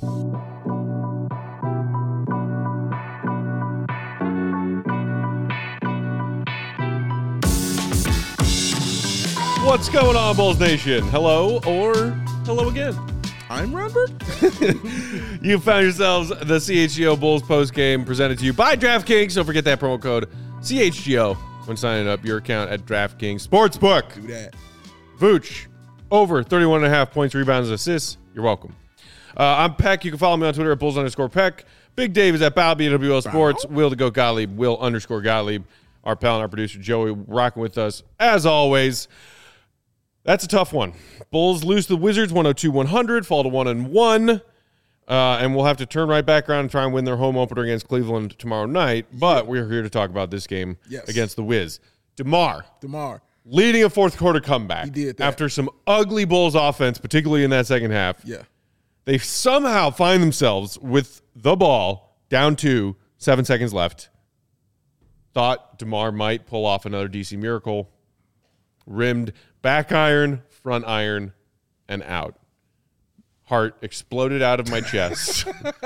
What's going on, Bulls Nation? Hello or hello again. I'm Robert. You found yourselves the CHGO Bulls postgame presented to you by DraftKings. Don't forget that promo code CHGO when signing up your account at DraftKings Sportsbook. Do that. Vooch, over 31.5 points, rebounds, and assists. You're welcome. I'm Peck. You can follow me on Twitter at Bulls_Peck. Big Dave is at BWL Sports. Will to go Gottlieb. Will_Gottlieb. Our pal and our producer Joey rocking with us as always. That's a tough one. Bulls lose to the Wizards 102-100, fall to 1-1, and we'll have to turn right back around and try and win their home opener against Cleveland tomorrow night. But we're here to talk about this game against the Wiz. DeMar leading a fourth quarter comeback. He did that. After some ugly Bulls offense, particularly in that second half. Yeah. They somehow find themselves with the ball down to 7 seconds left. Thought DeMar might pull off another DC miracle. Rimmed back iron, front iron, and out. Heart exploded out of my chest.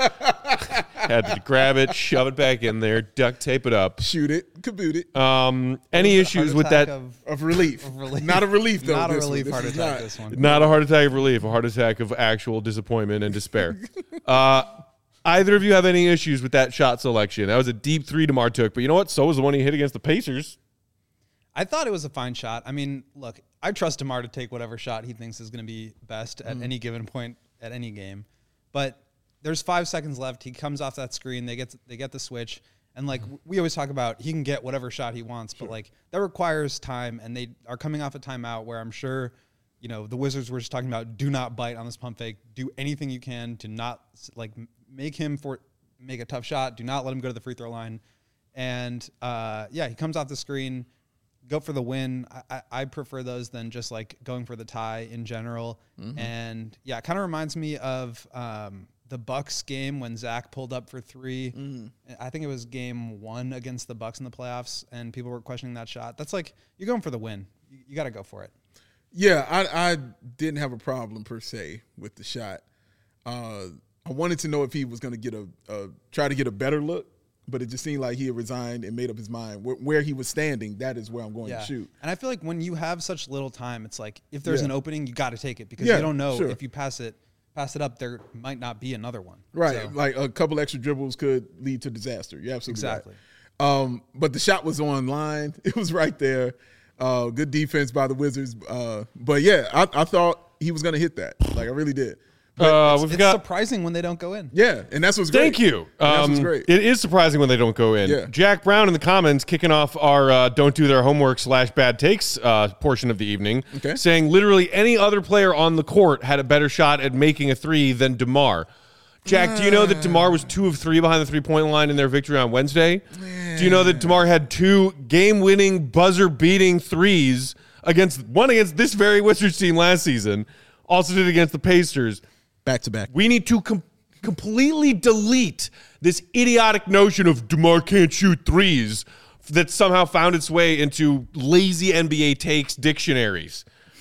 Had to grab it, shove it back in there, duct tape it up. Shoot it, kaboot it. Any issues with that? Of relief. Not a relief, though. Not a relief heart attack, this one. Not a heart attack of relief, a heart attack of actual disappointment and despair. Either of you have any issues with that shot selection? That was a deep three DeMar took, but you know what? So was the one he hit against the Pacers. I thought it was a fine shot. I mean, look, I trust DeMar to take whatever shot he thinks is going to be best at any given point at any game. But there's 5 seconds left. He comes off that screen. They get the switch. And, like, we always talk about he can get whatever shot he wants. But, like, that requires time. And they are coming off a timeout where I'm sure, you know, the Wizards were just talking about do not bite on this pump fake. Do anything you can to not, like, make a tough shot. Do not let him go to the free throw line. And, he comes off the screen. Go for the win. I prefer those than just like going for the tie in general. Mm-hmm. And yeah, it kind of reminds me of the Bucks game when Zach pulled up for three. Mm-hmm. I think it was game 1 against the Bucks in the playoffs, and people were questioning that shot. That's like you're going for the win. You got to go for it. Yeah, I didn't have a problem per se with the shot. I wanted to know if he was going to get try to get a better look. But it just seemed like he had resigned and made up his mind. Where he was standing, that is where I'm going to shoot. And I feel like when you have such little time, it's like if there's an opening, you got to take it because you don't know if you pass it up, there might not be another one. Right, so. Like a couple extra dribbles could lead to disaster. You're absolutely right. But the shot was on line. It was right there. Good defense by the Wizards. But yeah, I thought he was going to hit that. Like I really did. It's surprising when they don't go in. Yeah, and that's what's great. Thank you. That's what's great. It is surprising when they don't go in. Yeah. Jack Brown in the comments kicking off our don't do their homework / bad takes portion of the evening, saying literally any other player on the court had a better shot at making a three than DeMar. Jack, do you know that DeMar was 2 of 3 behind the three-point line in their victory on Wednesday? Do you know that DeMar had 2 game-winning, buzzer-beating threes against this very Wizards team last season, also did against the Pacers? Back-to-back. We need to completely delete this idiotic notion of DeMar can't shoot threes that somehow found its way into lazy NBA takes dictionaries.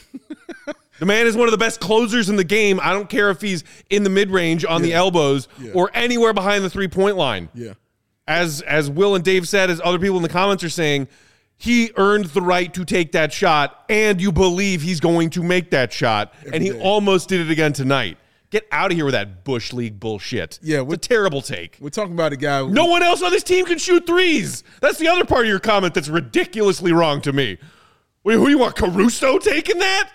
The man is one of the best closers in the game. I don't care if he's in the mid-range on the elbows or anywhere behind the three-point line. Yeah. As Will and Dave said, as other people in the comments are saying, he earned the right to take that shot, and you believe he's going to make that shot, and he almost did it again tonight. Get out of here with that Bush League bullshit. Yeah, it's a terrible take. We're talking about a guy who... No one else on this team can shoot threes. That's the other part of your comment that's ridiculously wrong to me. Wait, who you want, Caruso taking that?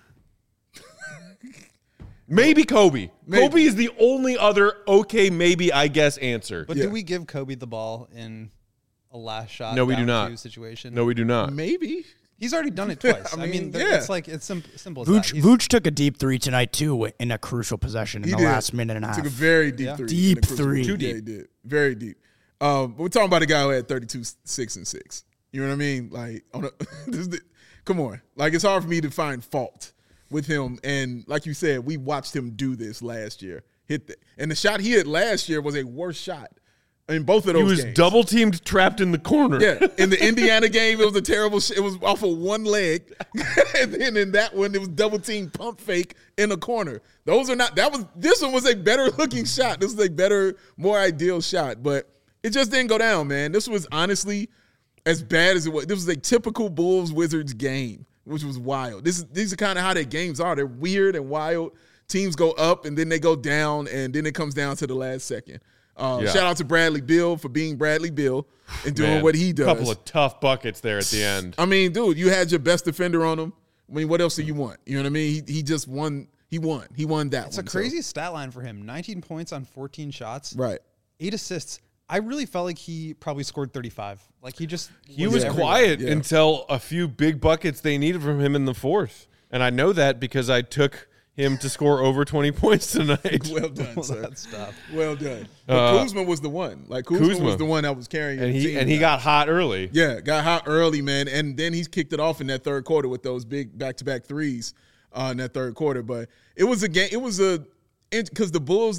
Maybe Kobe. Kobe is the only other maybe, I guess, answer. But do we give Kobe the ball in a last shot? No, we do not. Situation? No, we do not. Maybe. He's already done it twice. I mean it's simple as that. Vooch took a deep three tonight, too, in a crucial possession in the last minute and a half. Took a very deep three. Deep three. Too deep. Yeah, he did. Very deep. But we're talking about a guy who had 32, 6, and 6. You know what I mean? Like, come on. Like, it's hard for me to find fault with him. And like you said, we watched him do this last year. Hit that. And the shot he hit last year was a worse shot in both of those He was games. double teamed, trapped in the corner. Yeah, in the Indiana game, it was a terrible. It was off of one leg, and then in that one, it was double team pump fake in a corner. Those are not. This one was a better looking shot. This was a better, more ideal shot, but it just didn't go down, man. This was honestly as bad as it was. This was a typical Bulls Wizards game, which was wild. These are kind of how their games are. They're weird and wild. Teams go up and then they go down, and then it comes down to the last second. Shout out to Bradley Beal for being Bradley Beal and doing what he does. A couple of tough buckets there at the end. I mean, dude, you had your best defender on him. I mean, what else do you want? You know what I mean? He just won. He won. He won that It's one. a crazy stat line for him. 19 points on 14 shots. Right. 8 assists. I really felt like he probably scored 35. Like he was everywhere. quiet until a few big buckets they needed from him in the fourth. And I know that because I took him to score over 20 points tonight. Well done, All sir. that stuff. Well done. But Kuzma was the one. Like Kuzma was the one that was carrying And the team. he got hot early. Yeah, got hot early, man. And then he's kicked it off in that third quarter with those big back-to-back threes in that third quarter. But it was a game. It was because the Bulls,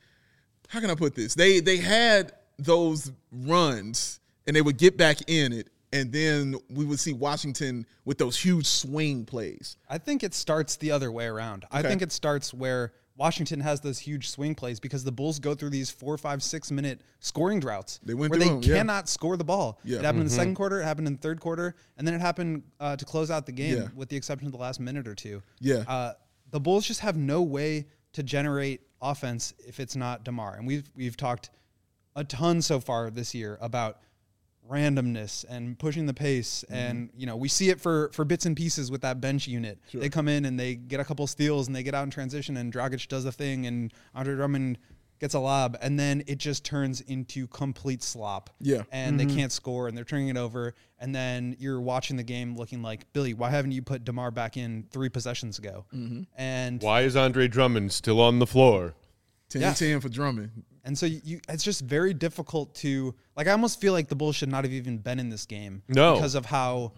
how can I put this? They had those runs and they would get back in it. And then we would see Washington with those huge swing plays. I think it starts the other way around. I think it starts where Washington has those huge swing plays because the Bulls go through these 4, 5, 6 minute scoring droughts They went where through they them, yeah. cannot score the ball. Yeah. It happened in the second quarter, it happened in the third quarter, and then it happened to close out the game Yeah. with the exception of the last minute or two. Yeah. The Bulls just have no way to generate offense if it's not DeMar. And we've talked a ton so far this year about randomness and pushing the pace. And, we see it for bits and pieces with that bench unit. Sure. They come in and they get a couple steals and they get out in transition and Dragic does a thing and Andre Drummond gets a lob. And then it just turns into complete slop. Yeah. And they can't score and they're turning it over. And then you're watching the game looking like, Billy, why haven't you put DeMar back in 3 possessions ago? And Why is Andre Drummond still on the floor? 10-10 for Drummond. And so it's just very difficult to I almost feel like the Bulls should not have even been in this game. No. Because of how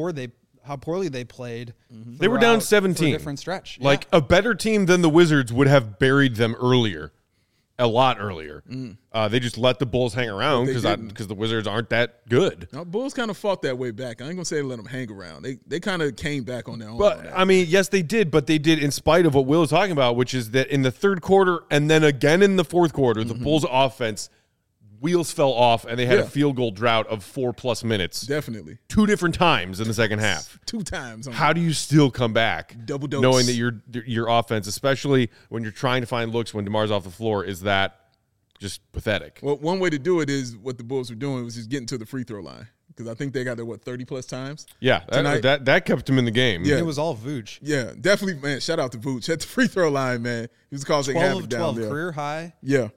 poorly they played. They were down throughout- 17. for a different stretch. Like a better team than the Wizards would have buried them earlier. A lot earlier. They just let the Bulls hang around They didn't. because the Wizards aren't that good. Now, Bulls kind of fought that way back. I ain't going to say they let them hang around. They kind of came back on their own. But, on that. I mean, yes, they did, but they did in spite of what Will is talking about, which is that in the third quarter and then again in the fourth quarter, the Bulls' offense, wheels fell off, and they had a field goal drought of 4+ minutes. Definitely. 2 different times in the second half. 2 times. How do you still come back? Double dose. Knowing that your offense, especially when you're trying to find looks when DeMar's off the floor, is that just pathetic. Well, one way to do it is what the Bulls were doing was just getting to the free throw line because I think they got there 30+ times. Yeah, Tonight- that kept him in the game. Yeah. It was all Vooch. Yeah, definitely, man. Shout out to Vooch at the free throw line, man. He was causing 12 havoc of down 12 there. career high. Yeah,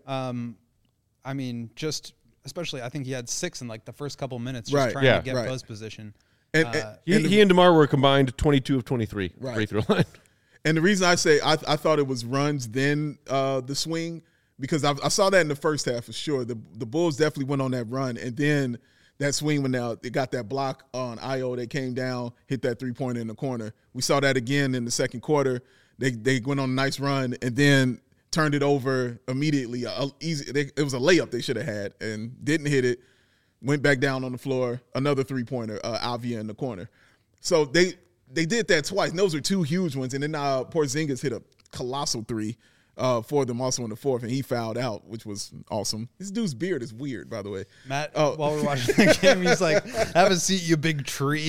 I mean, just especially I think he had 6 in the first couple minutes just Right. trying Yeah. to get Right. post position. and He and DeMar were combined 22 of 23 Right. free throw line. And the reason I say I thought it was runs then the swing because I saw that in the first half for sure. The Bulls definitely went on that run, and then that swing when they got that block on Io. They came down, hit that 3-pointer in the corner. We saw that again in the second quarter. They went on a nice run and then turned it over immediately. It was a layup they should have had and didn't hit it. Went back down on the floor. Another 3-pointer, Avia in the corner. So they did that twice. And those are 2 huge ones. And then Porzingis hit a colossal 3 for them also in the fourth, and he fouled out, which was awesome. This dude's beard is weird, by the way. Matt, while we're watching the game, he's like, "Have a seat, you big tree."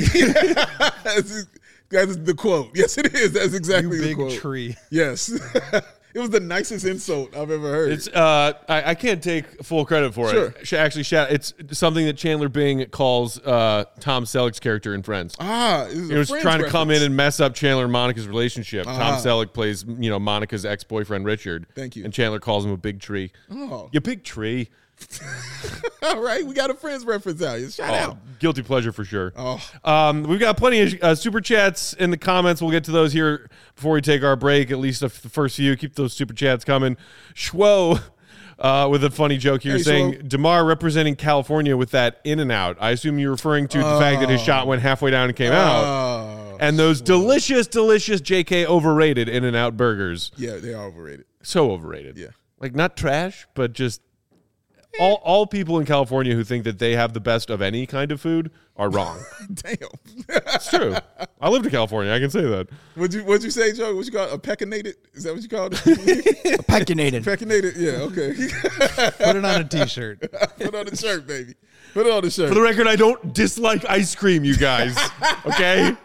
That's the quote. Yes, it is. That's exactly You the big quote. tree. Yes. It was the nicest insult I've ever heard. It's I can't take full credit for Sure. it. Actually, it's something that Chandler Bing calls Tom Selleck's character in Friends. He He was trying to come in and mess up Chandler and Monica's relationship. Tom Selleck plays, Monica's ex-boyfriend Richard. Thank you. And Chandler calls him a big tree. Oh. You big tree. All right, we got a Friends reference out. Shout out. Guilty pleasure for sure. Oh. We've got plenty of super chats in the comments. We'll get to those here before we take our break, at least the first few. Keep those super chats coming. Schwo with a funny joke here Hey, saying, Schwo. DeMar representing California with that in and out. I assume you're referring to the fact that his shot went halfway down and came out. And those delicious JK overrated in and out burgers. Yeah, they are overrated. So overrated. Yeah. Like not trash, but just all people in California who think that they have the best of any kind of food are wrong. Damn. It's true. I lived in California. I can say that. What'd you say, Joe? What you call it? A pecanated? Is that what you called it? Pecanated. Pecanated? Yeah, okay. Put it on a T-shirt. Put on the shirt, baby. Put it on the shirt. For the record, I don't dislike ice cream, you guys. Okay?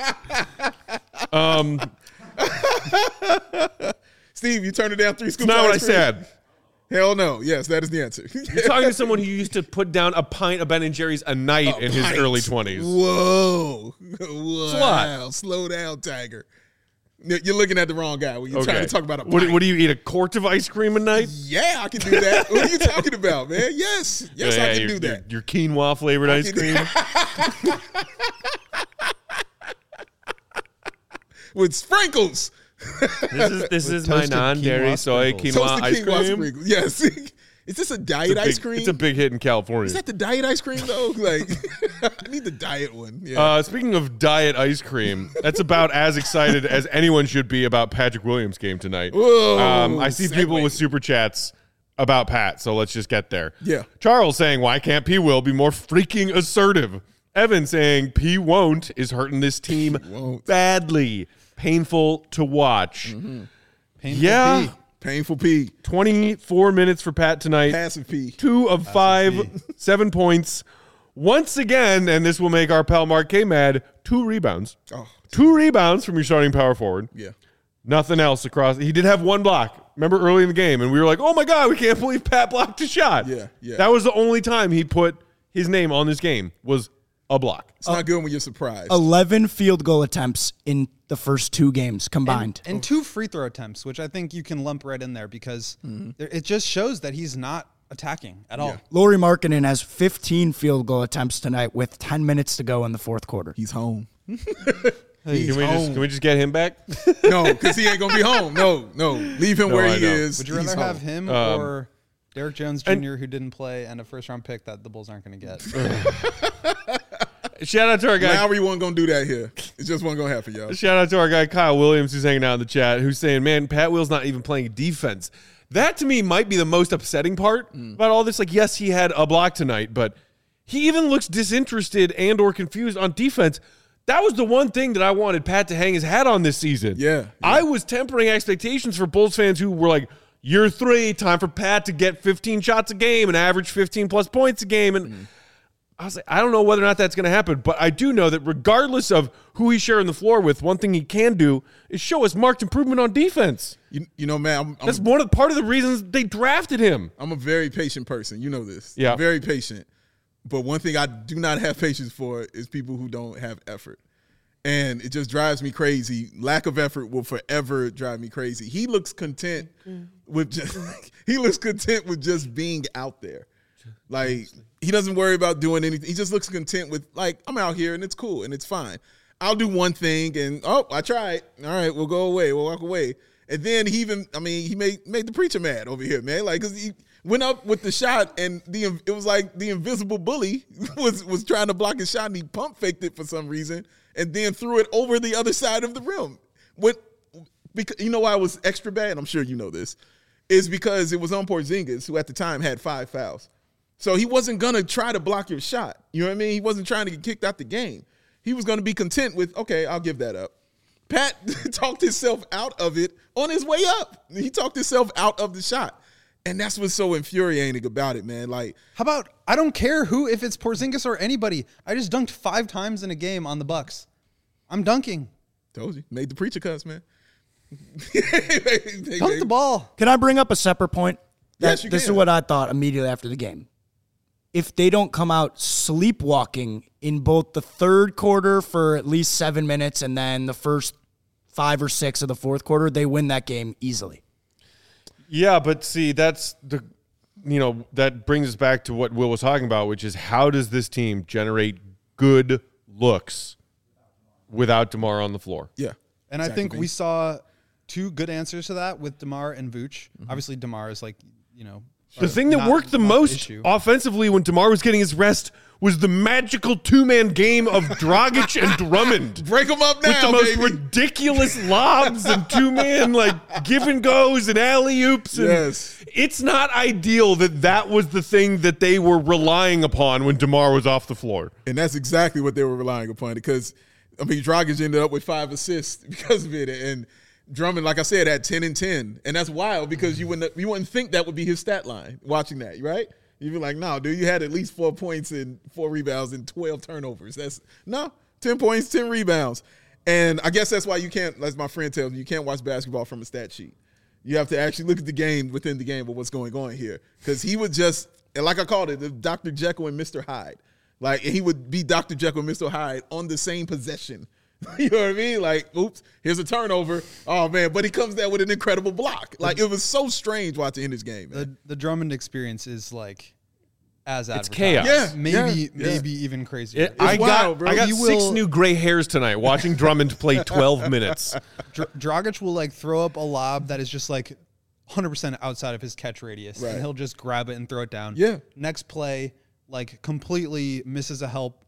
Steve, you turned it down 3 scoops. Not of what I ice cream? said. Hell no. Yes, that is the answer. You're talking to someone who used to put down a pint of Ben & Jerry's a night in his early 20s. Whoa. a lot. Wow. Slow down, Tiger. You're looking at the wrong guy when you're trying to talk about a pint. What do you eat, a quart of ice cream a night? Yeah, I can do that. What are you talking about, man? Yes, I can do that. Your quinoa flavored ice cream. With sprinkles. This is my toasted non-dairy quinoa soy sprinkles. quinoa Toasted ice quinoa cream. sprinkles. Yes. Is this a diet ice cream? It's a big hit in California. Is that the diet ice cream though? Like, I need the diet one. Yeah. Speaking of diet ice cream, that's about as excited as anyone should be about Patrick Williams' game tonight. Whoa, I see people with super chats about Pat, so let's just get there. Yeah. Charles saying, why can't P. Will be more freaking assertive? Evan saying, P. won't is hurting this team badly. Painful to watch. Painful Yeah. P. Painful P. 24 minutes for Pat tonight. Passive P. 2 of 5, 7 points. Once again, and this will make our pal Mark K mad, 2 rebounds. Oh. 2 rebounds from your starting power forward. Yeah. Nothing else across. He did have 1 block. Remember early in the game, and we were like, oh my God, we can't believe Pat blocked a shot. Yeah. That was the only time he put his name on this game was a block. It's not good when you're surprised. 11 field goal attempts in the first 2 games combined. And 2 free throw attempts, which I think you can lump right in there because it just shows that he's not attacking at all. Lauri Markkanen has 15 field goal attempts tonight with 10 minutes to go in the fourth quarter. He's home. Can we just get him back? No, because he ain't gonna be home. No. Leave him where I he know. is. Would you He's rather have home. him or Derrick Jones Jr., who didn't play, and a first-round pick that the Bulls aren't going to get? Shout out to our guy. Lowry wasn't gonna do that here. It just wasn't gonna happen, y'all. Shout out to our guy Kyle Williams, who's hanging out in the chat, who's saying, man, Pat Will's not even playing defense. That to me might be the most upsetting part about all this. Like, yes, he had a block tonight, but he even looks disinterested and or confused on defense. That was the one thing that I wanted Pat to hang his hat on this season. Yeah. I was tempering expectations for Bulls fans who were like, year 3, time for Pat to get 15 shots a game and average 15-plus points a game. And I was like, I don't know whether or not that's going to happen, but I do know that regardless of who he's sharing the floor with, one thing he can do is show us marked improvement on defense. You know, man, That's part of the reasons they drafted him. I'm a very patient person. You know this. Yeah. I'm very patient. But one thing I do not have patience for is people who don't have effort. And it just drives me crazy. Lack of effort will forever drive me crazy. He looks content with just being out there. Like, he doesn't worry about doing anything. He just looks content with, like, I'm out here and it's cool and it's fine. I'll do one thing and, I tried. All right, we'll go away. We'll walk away. And then he made the preacher mad over here, man. Like, because he went up with the shot and it was like the invisible bully was trying to block his shot and he pump faked it for some reason and then threw it over the other side of the rim. Because you know why it was extra bad? I'm sure you know this. Is because it was on Porzingis, who at the time had 5 fouls. So he wasn't going to try to block your shot. You know what I mean? He wasn't trying to get kicked out the game. He was going to be content with, okay, I'll give that up. Pat talked himself out of it on his way up. He talked himself out of the shot. And that's what's so infuriating about it, man. Like, How about, I don't care if it's Porzingis or anybody. I just dunked 5 times in a game on the Bucks. I'm dunking. told you, made the preacher cuss, man. Dunk the ball. Can I bring up a separate point? Yes, you This is can. what I thought immediately after the game. If they don't come out sleepwalking in both the third quarter for at least 7 minutes and then the first 5 or 6 of the fourth quarter, they win that game easily. Yeah, but see, that's that brings us back to what Will was talking about, which is how does this team generate good looks without DeMar on the floor? Yeah. And I think we saw 2 good answers to that with DeMar and Vooch. Obviously, DeMar is The thing that worked the most offensively when DeMar was getting his rest was the magical two-man game of Dragic and Drummond. Break them up now, with the most baby. ridiculous lobs and two-man give and goes and alley-oops. Yes. It's not ideal that was the thing that they were relying upon when DeMar was off the floor. And that's exactly what they were relying upon because, Dragic ended up with 5 assists because of it. And Drummond, like I said, had 10 and 10. And that's wild because you wouldn't think that would be his stat line watching that, right? You'd be like, no, dude, you had at least 4 points and 4 rebounds and 12 turnovers. 10 points, 10 rebounds. And I guess that's why you can't, as my friend tells me, you can't watch basketball from a stat sheet. You have to actually look at the game within the game of what's going on here. Because he would just, and like I called it, the Dr. Jekyll and Mr. Hyde. He would be Dr. Jekyll and Mr. Hyde on the same possession. You know what I mean? Oops, here's a turnover. Oh, man. But he comes there with an incredible block. It was so strange watching in this game, man. The Drummond experience is as advertised. It's chaos. Yeah, maybe even crazier. I wild, bro. got He 6 will- new gray hairs tonight watching Drummond play 12 minutes. Dragic will throw up a lob that is just 100% outside of his catch radius, Right. and he'll just grab it and throw it down. Yeah. Next play, completely misses a help,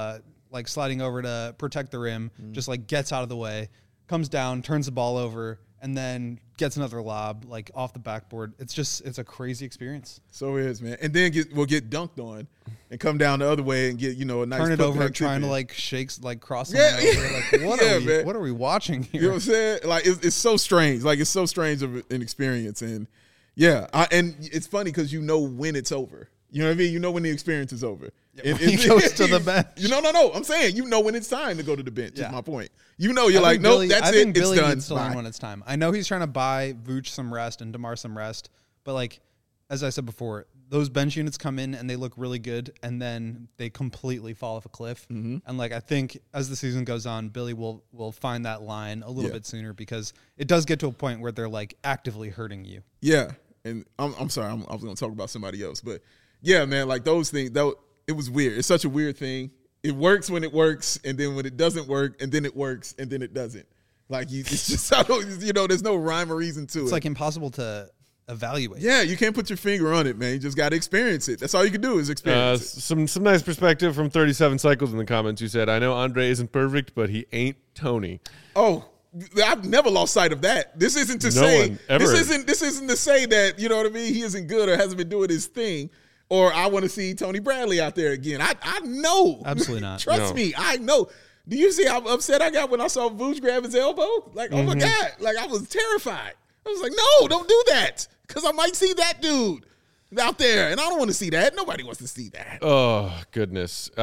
sliding over to protect the rim, just gets out of the way, comes down, turns the ball over, and then gets another lob off the backboard. It's a crazy experience. So it is, man. And then we'll get dunked on and come down the other way and get, a nice Turn it putback over, tip trying in. to cross someone Yeah. over. Man. What are we watching here? You know what I'm saying? It's so strange. It's so strange of an experience. And yeah, and it's funny because when it's over. You know what I mean? You know when the experience is over. When he goes to the bench. No. I'm saying when it's time to go to the bench. Yeah. Is my point. You're like, nope, that's I it. think It's Billy done. needs to learn when it's time. I know he's trying to buy Vooch some rest and DeMar some rest, but as I said before, those bench units come in and they look really good, and then they completely fall off a cliff. Mm-hmm. And I think as the season goes on, Billy will find that line a little bit sooner because it does get to a point where they're actively hurting you. Yeah, and I'm sorry, I was going to talk about somebody else, but yeah, man, those things, it was weird. It's such a weird thing. It works when it works, and then when it doesn't work, and then it works, and then it doesn't. It's just, there's no rhyme or reason to it. It's impossible to evaluate. Yeah, you can't put your finger on it, man. You just got to experience it. That's all you can do is experience it. Some nice perspective from 37 Cycles in the comments. You said, I know Andre isn't perfect, but he ain't Tony. Oh, I've never lost sight of that. This isn't to say this isn't to say that, you know what I mean, he isn't good or hasn't been doing his thing. Or I want to see Tony Bradley out there again. I know. Absolutely not. Trust me, I know. Do you see how upset I got when I saw Vooch grab his elbow? Oh my God. I was terrified. I was like, no, don't do that. Because I might see that dude out there. And I don't want to see that. Nobody wants to see that. Oh, goodness.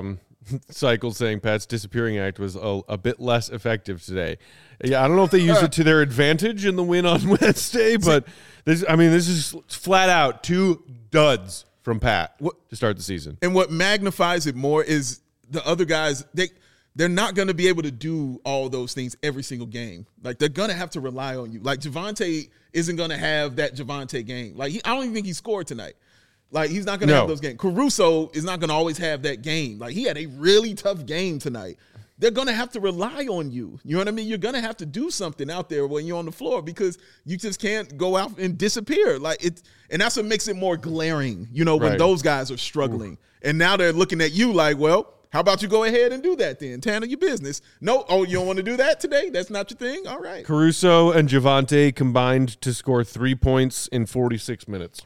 Cycle saying Pat's disappearing act was a bit less effective today. Yeah, I don't know if they used it to their advantage in the win on Wednesday, but this is flat out 2 duds from Pat to start the season. And what magnifies it more is the other guys, they're not going to be able to do all those things every single game. They're going to have to rely on you. Javonte isn't going to have that Javonte game. I don't even think he scored tonight. He's not going to have those games. Caruso is not going to always have that game. He had a really tough game tonight. They're going to have to rely on you. You know what I mean? You're going to have to do something out there when you're on the floor because you just can't go out and disappear. And that's what makes it more glaring, when those guys are struggling. And now they're looking at you well, how about you go ahead and do that then? Handle your business. No, you don't want to do that today? That's not your thing? All right. Caruso and Javonte combined to score 3 points in 46 minutes.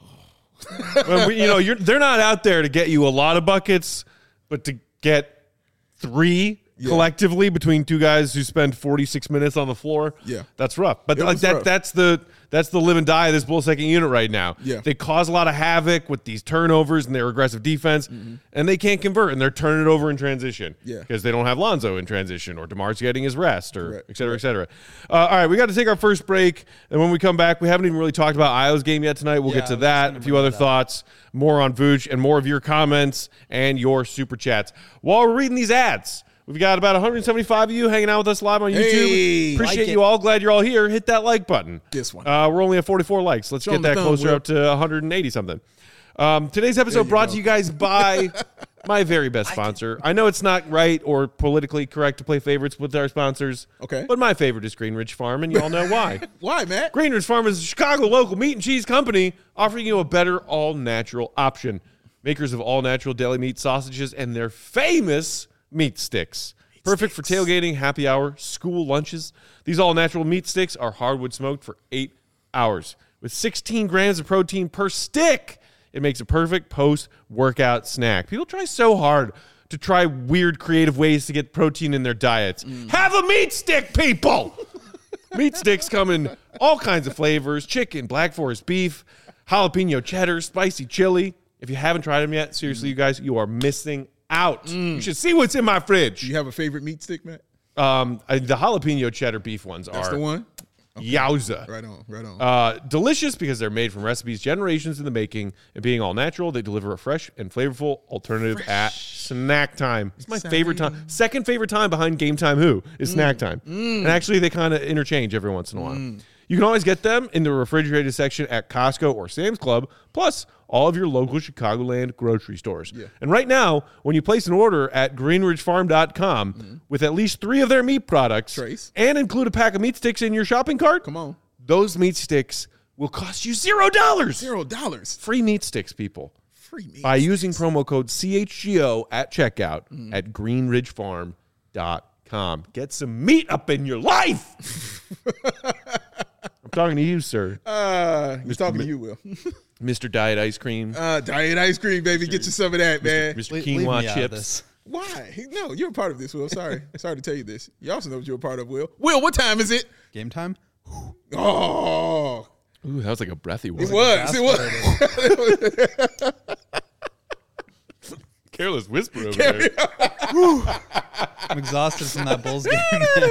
They're not out there to get you a lot of buckets, but to get 3 collectively between 2 guys who spend 46 minutes on the floor. Yeah, that's rough. But rough. That's the live and die of this Bulls second unit right now. Yeah, they cause a lot of havoc with these turnovers and their aggressive defense, and they can't convert, and they're turning it over in transition. Yeah, because they don't have Lonzo in transition, or DeMar's getting his rest, or et cetera, et cetera. All right, we got to take our first break, and when we come back, we haven't even really talked about Io's game yet tonight. We'll get to that, a few other thoughts, more on Vooch, and more of your comments and your super chats. While we're reading these ads, we've got about 175 of you hanging out with us live on YouTube. Hey, appreciate you all. Glad you're all here. Hit that like button. This one. We're only at 44 likes. Let's get that closer up to 180 something. Today's episode brought to you guys by my very best sponsor. I know it's not right or politically correct to play favorites with our sponsors. Okay. But my favorite is Greenridge Farm, and you all know why. Why, Matt? Greenridge Farm is a Chicago local meat and cheese company offering you a better all-natural option. Makers of all-natural deli meat sausages and their famous meat sticks. Perfect for tailgating, happy hour, school lunches. These all-natural meat sticks are hardwood smoked for 8 hours. With 16 grams of protein per stick, it makes a perfect post-workout snack. People try so hard to try weird, creative ways to get protein in their diets. Have a meat stick, people! Meat sticks come in all kinds of flavors: chicken, Black Forest beef, jalapeno cheddar, spicy chili. If you haven't tried them yet, seriously, you guys, you are missing out. You should see what's in my fridge. Do you have a favorite meat stick, Matt? The jalapeno cheddar beef ones That's the one? Yowza. Right on. Delicious because they're made from recipes generations in the making, and being all natural, they deliver a fresh and flavorful alternative at snack time. It's my favorite time. Second favorite time behind Game Time Who is snack time. And actually, they kind of interchange every once in a while. You can always get them in the refrigerated section at Costco or Sam's Club, plus all of your local Chicagoland grocery stores. Yeah. And right now, when you place an order at greenridgefarm.com with at least 3 of their meat products and include a pack of meat sticks in your shopping cart, come on, those meat sticks will cost you $0. $0. Free meat sticks, people. Free meat by sticks. using promo code CHGO at checkout at greenridgefarm.com. Get some meat up in your life. I'm talking to you, sir. He's talking to you, Will. Mr. Diet Ice Cream. Diet ice cream, baby. Get you some of that, man. Mr. Quinoa chips. Why? No, you're a part of this, Will. Sorry to tell you this. You also know what you're a part of, Will. Will, what time is it? Game time? Oh. Ooh, that was like a breathy one. It was. Careless whisper over there. I'm exhausted from that Bulls game.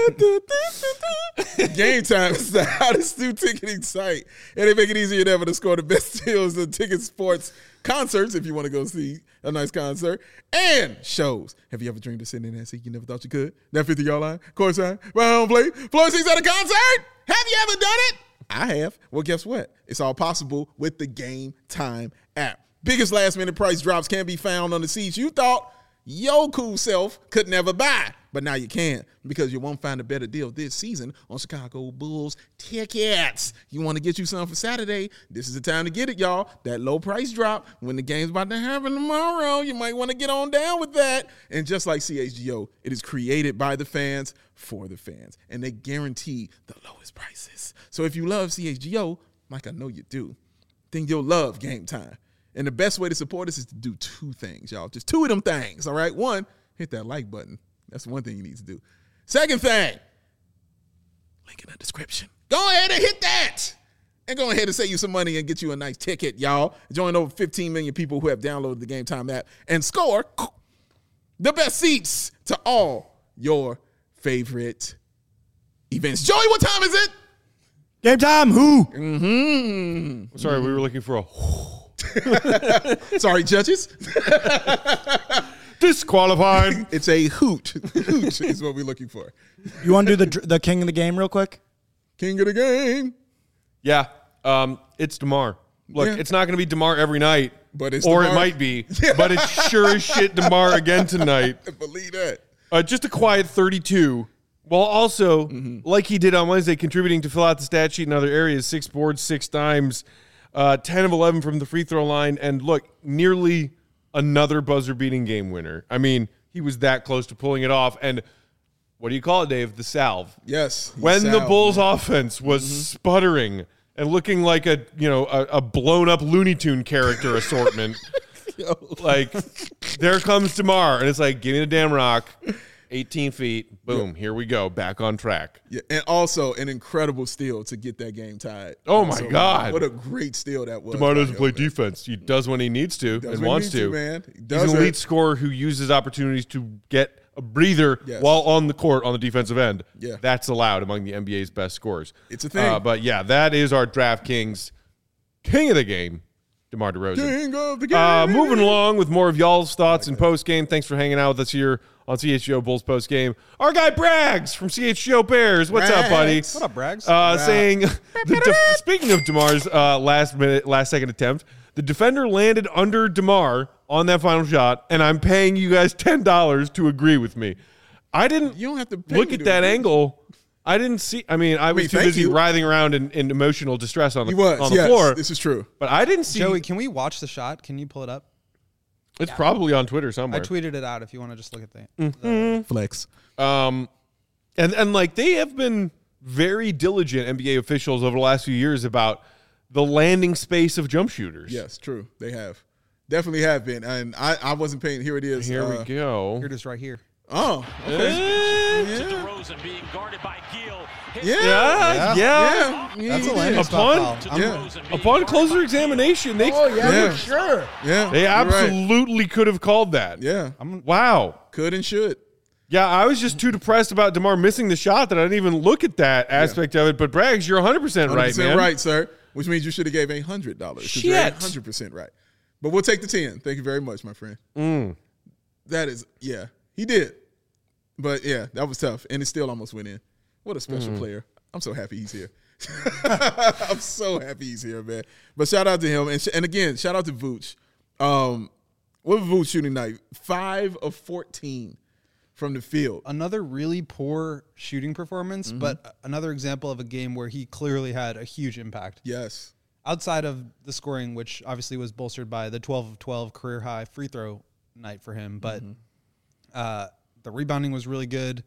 Game Time is the hottest new ticketing site, and they make it easier than ever to score the best deals on ticket, sports, concerts, if you want to go see a nice concert, and shows. Have you ever dreamed of sitting in that seat you never thought you could? That 50-yard line, courtside, round plate, floor seats at a concert? Have you ever done it? I have. Well, guess what? It's all possible with the Game Time app. Biggest last-minute price drops can be found on the seats you thought your cool self could never buy. But now you can, because you won't find a better deal this season on Chicago Bulls tickets. You want to get you some for Saturday? This is the time to get it, y'all. That low price drop when the game's about to happen tomorrow. You might want to get on down with that. And just like CHGO, it is created by the fans for the fans. And they guarantee the lowest prices. So if you love CHGO, like I know you do, then you'll love Game Time. And the best way to support us is to do 2 things, y'all. Just 2 of them things, all right? 1, hit that like button. That's one thing you need to do. Second thing, link in the description. Go ahead and hit that. And go ahead and save you some money and get you a nice ticket, y'all. Join over 15 million people who have downloaded the Game Time app and score the best seats to all your favorite events. Joey, what time is it? Game Time Who? Sorry, we were looking for a Sorry, judges. disqualified. It's a hoot. Hoot is what we're looking for. You want to do the king of the game real quick? King of the game. Yeah, it's DeMar. Look, Yeah. it's not going to be DeMar every night, But it's or DeMar. it might be, but it's sure as shit DeMar again tonight. Believe that. Just a quiet 32, while also, like he did on Wednesday, contributing to fill out the stat sheet in other areas. 6 boards, 6 dimes, 10 of 11 from the free throw line, and look, nearly another buzzer-beating game winner. I mean, he was that close to pulling it off. And what do you call it, Dave? The salve. Yes. When the Bulls' offense was sputtering and looking like a blown-up Looney Tune character assortment, like, there comes DeMar, and it's like, give me the damn rock. 18 feet, boom, here we go, back on track. Yeah, and also an incredible steal to get that game tied. Oh, my God. What a great steal that was. DeMar doesn't play defense. He does when he needs to and wants to. Man. He's an elite scorer who uses opportunities to get a breather while on the court on the defensive end. Yeah. That's allowed among the NBA's best scorers. It's a thing. But, yeah, that is our DraftKings king of the game, DeMar DeRozan. King of the game. Moving along with more of y'all's thoughts and post-game. Thanks for hanging out with us here on CHGO Bulls post-game. Our guy Braggs from CHGO Bears. What's up, buddy? What up, Braggs? Saying, speaking of DeMar's last second attempt, The defender landed under DeMar on that final shot, and I'm paying you guys $10 to agree with me. I didn't You don't have to pay look me at to that agree. angle. I didn't see. I mean, I was too thank busy you. writhing around in emotional distress on the, He was. on the Yes, floor. this is true. But I didn't see. Joey, can we watch the shot? Can you pull it up? It's probably on Twitter I somewhere. tweeted it out if you want to just look at that. Flex. And like they have been very diligent NBA officials over the last few years about the landing space of jump shooters. Yes, true. They have. Definitely have been. And I wasn't paying. Here it is. Here we go. Here it is right here. Oh, okay. Eh, DeRozan being guarded by Gill. yeah. That's a he landing did. spot To foul. Yeah. DeRozan being Upon guarded closer by examination, they Yeah. Sure. Yeah. they you're right. absolutely could have called that. Yeah. Wow. Could and should. Yeah, I was just too depressed about DeMar missing the shot that I didn't even look at that aspect of it. But Braggs, you're 100% right, 100% man. right, sir. Which means you should have gave $100. 'cause you're Shit. 100% right. But we'll take the 10. Thank you very much, my friend. That is, yeah, he did. But yeah, that was tough, and it still almost went in. What a special player! I'm so happy he's here. I'm so happy he's here, man. But shout out to him, and again, shout out to Vooch. What was Vooch shooting night? 5 of 14 from the field. Another really poor shooting performance, Mm-hmm. but another example of a game where he clearly had a huge impact. Yes, Outside of the scoring, which obviously was bolstered by the 12 of 12 career high free throw night for him, but the rebounding was really good.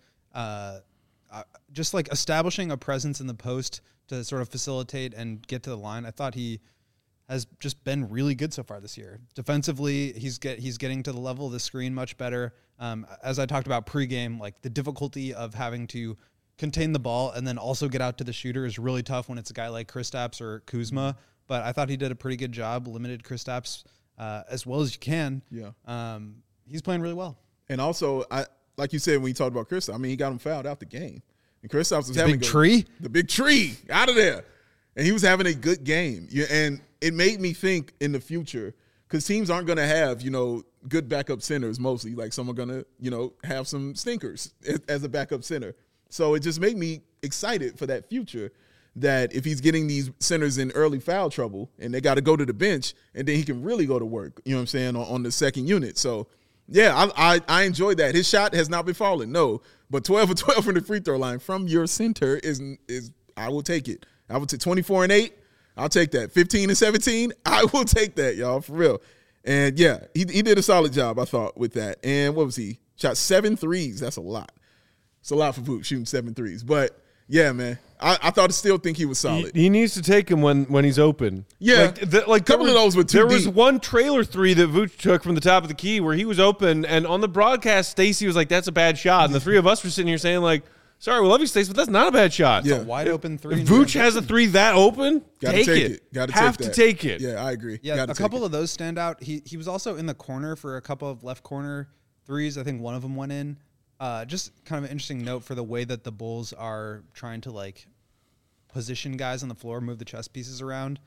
Just like establishing a presence in the post to sort of facilitate and get to the line. I thought he has just been really good so far this year. Defensively, he's getting to the level of the screen much better. As I talked about pregame, like the difficulty of having to contain the ball and then also get out to the shooter is really tough when it's a guy like Kristaps or Kuzma. But I thought he did a pretty good job, limited Kristaps as well as you can. Yeah. He's playing really well. and also like you said when you talked about Kristaps, I mean, he got him fouled out the game, and Kristaps was having Big tree? the big tree out of there, and he was having a good game. Yeah, and it made me think in the future, because teams aren't going to have good backup centers mostly. Like some are going to have some stinkers as a backup center. So it just made me excited for that future. That if he's getting these centers in early foul trouble and they got to go to the bench, and then he can really go to work, you know what I'm saying, on the second unit. So, yeah, I enjoyed that. His shot has not been falling, no. But 12 for 12 from the free throw line from your center is I will take it. I would take 24 and 8. I'll take that. 15 and 17. I will take that, y'all, for real. And, yeah, he did a solid job, I thought, with that. And what was he? Shot 7 threes. That's a lot. It's a lot for Vooch, shooting 7 threes. But, yeah, man, I still think he was solid. He needs to take him when he's open. Yeah. like Couple of those were too There was deep. one trailer three that Vooch took from the top of the key where he was open, and on the broadcast, Stacey was like, "That's a bad shot," and the three of us were sitting here saying like, "Sorry, we love you, Stacey, but that's not a bad shot." Yeah. Wide open three. If Vooch has a three that open, Gotta take take it. Gotta Have take to that. take it. Yeah, I agree. Yeah, Gotta a take couple it. of those stand out. He was also in the corner for a couple of left corner threes. I think one of them went in. Just kind of an interesting note for the way that the Bulls are trying to like position guys on the floor, move the chess pieces around.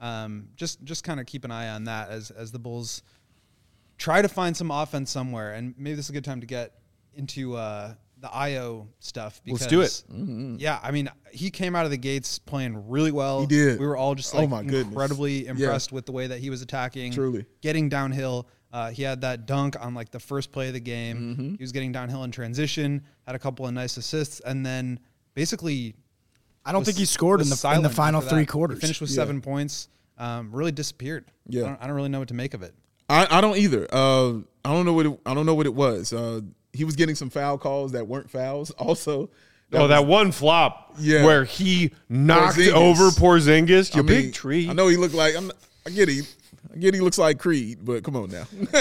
Just kind of keep an eye on that as the Bulls try to find some offense somewhere. And maybe this is a good time to get into the IO stuff. Because, Let's do it. Yeah, I mean, he came out of the gates playing really well. He did. We were all just Oh like my goodness. incredibly impressed with the way that he was attacking. Truly. Getting downhill. He had that dunk on like the first play of the game. Mm-hmm. He was getting downhill in transition, had a couple of nice assists, and then basically I don't was- think he scored in was the silent final after that. three quarters. He finished with 7 points. Really disappeared. Yeah. I don't really know what to make of it. I don't either. I don't know what it was. He was getting some foul calls that weren't fouls. Also, That one flop Yeah. where he knocked Porzingis. over Porzingis, I mean, big tree. I know he looked like I get he looks like Creed, but come on now.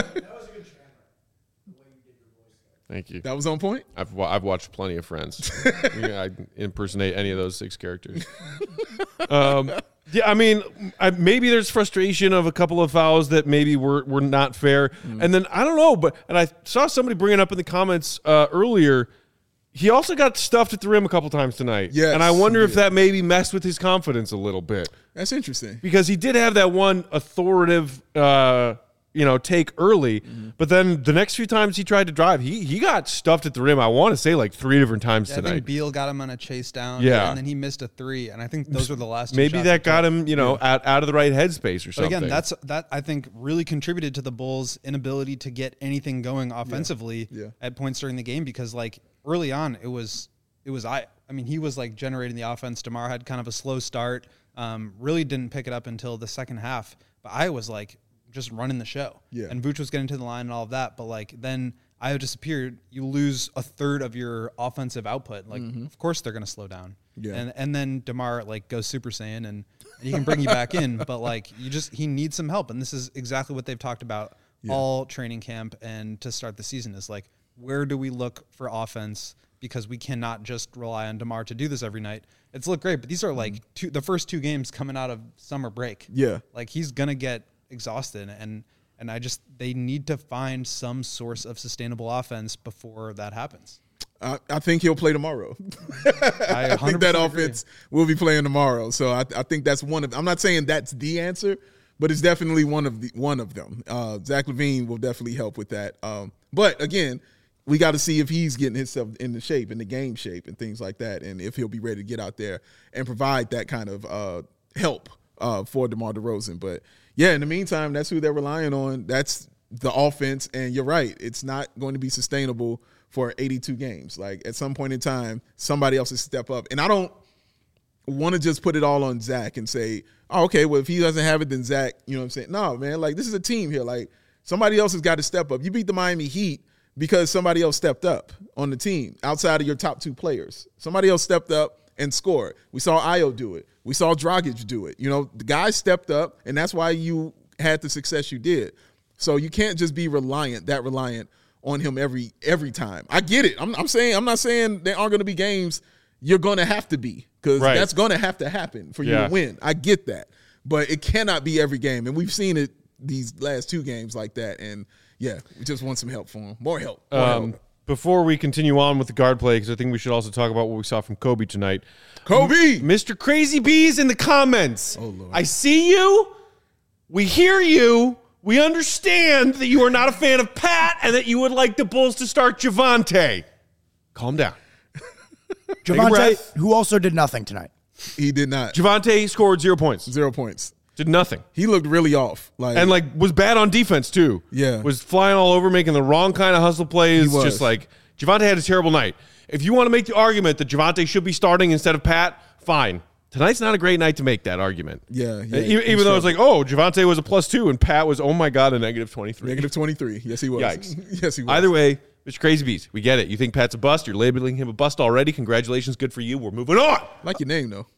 Thank you. That was on point. I've watched plenty of Friends. I impersonate any of those 6 characters. Yeah, I mean, maybe there's frustration of a couple of fouls that maybe were not fair, and then I don't know, and I saw somebody bring it up in the comments earlier. He also got stuffed at the rim a couple times tonight, Yes, and I wonder he if did. that maybe messed with his confidence a little bit That's interesting. because he did have that one authoritative take early. But then the next few times he tried to drive, he got stuffed at the rim. I want to say like 3 different times I tonight. think Beal got him on a chase down. Yeah. And then he missed a 3. And I think those were the last 2 Maybe shots that he got took. him, out of the right headspace or But something. again, that I think really contributed to the Bulls' inability to get anything going offensively at points during the game, because like early on he was like generating the offense. DeMar had kind of a slow start. Really didn't pick it up until the second half. But I was like just running the show. Yeah. And Vooch was getting to the line and all of that. But like then I disappeared. You lose a third of your offensive output. Like of course they're gonna slow down. Yeah. And then DeMar like goes Super Saiyan and he can bring you back in. But like he needs some help. And this is exactly what they've talked about all training camp and to start the season is like, where do we look for offense? Because we cannot just rely on DeMar to do this every night. It's looked great, but these are like the first 2 games coming out of summer break. Yeah. Like he's gonna get exhausted, and they need to find some source of sustainable offense before that happens. I think he'll play tomorrow. I think that 100% offense will be playing tomorrow. So I think that's one of. I'm not saying that's the answer, but it's definitely one of them. Zach LaVine will definitely help with that. But again, we got to see if he's getting himself in the shape, in the game shape, and things like that, and if he'll be ready to get out there and provide that kind of help for DeMar DeRozan. But yeah, in the meantime, that's who they're relying on. That's the offense, and you're right. It's not going to be sustainable for 82 games. Like at some point in time, somebody else has to step up. And I don't want to just put it all on Zach and say, oh, okay, well, if he doesn't have it, then Zach, you know what I'm saying? No, man, like this is a team here. Like somebody else has got to step up. You beat the Miami Heat because somebody else stepped up on the team outside of your top 2 players. Somebody else stepped up and scored. We saw Ayo do it. We saw Dragic do it. The guys stepped up, and that's why you had the success you did. So you can't just be reliant on him every time. I get it. I'm not saying there aren't going to be games you're going to have to be, because that's going to have to happen for you to win. I get that. But it cannot be every game. And we've seen it these last 2 games like that. And, yeah, we just want some help for him. More help. Before we continue on with the guard play, because I think we should also talk about what we saw from Kobe tonight. Kobe! Mr. Crazy Bees in the comments. Oh, Lord. I see you. We hear you. We understand that you are not a fan of Pat and that you would like the Bulls to start Javonte. Calm down. Javonte, who also did nothing tonight. He did not. Javonte scored 0 points. 0 points. Did nothing. He looked really off. Was bad on defense, too. Yeah. Was flying all over, making the wrong kind of hustle plays. He was. Just like, Javonte had a terrible night. If you want to make the argument that Javonte should be starting instead of Pat, fine. Tonight's not a great night to make that argument. Yeah. Even though it's like, oh, Javonte was a +2 and Pat was, oh my God, a -23. -23. Yes, he was. Yikes. Yes, he was. Either way, Mr. Crazy Beast, we get it. You think Pat's a bust. You're labeling him a bust already. Congratulations. Good for you. We're moving on. Like your name, though.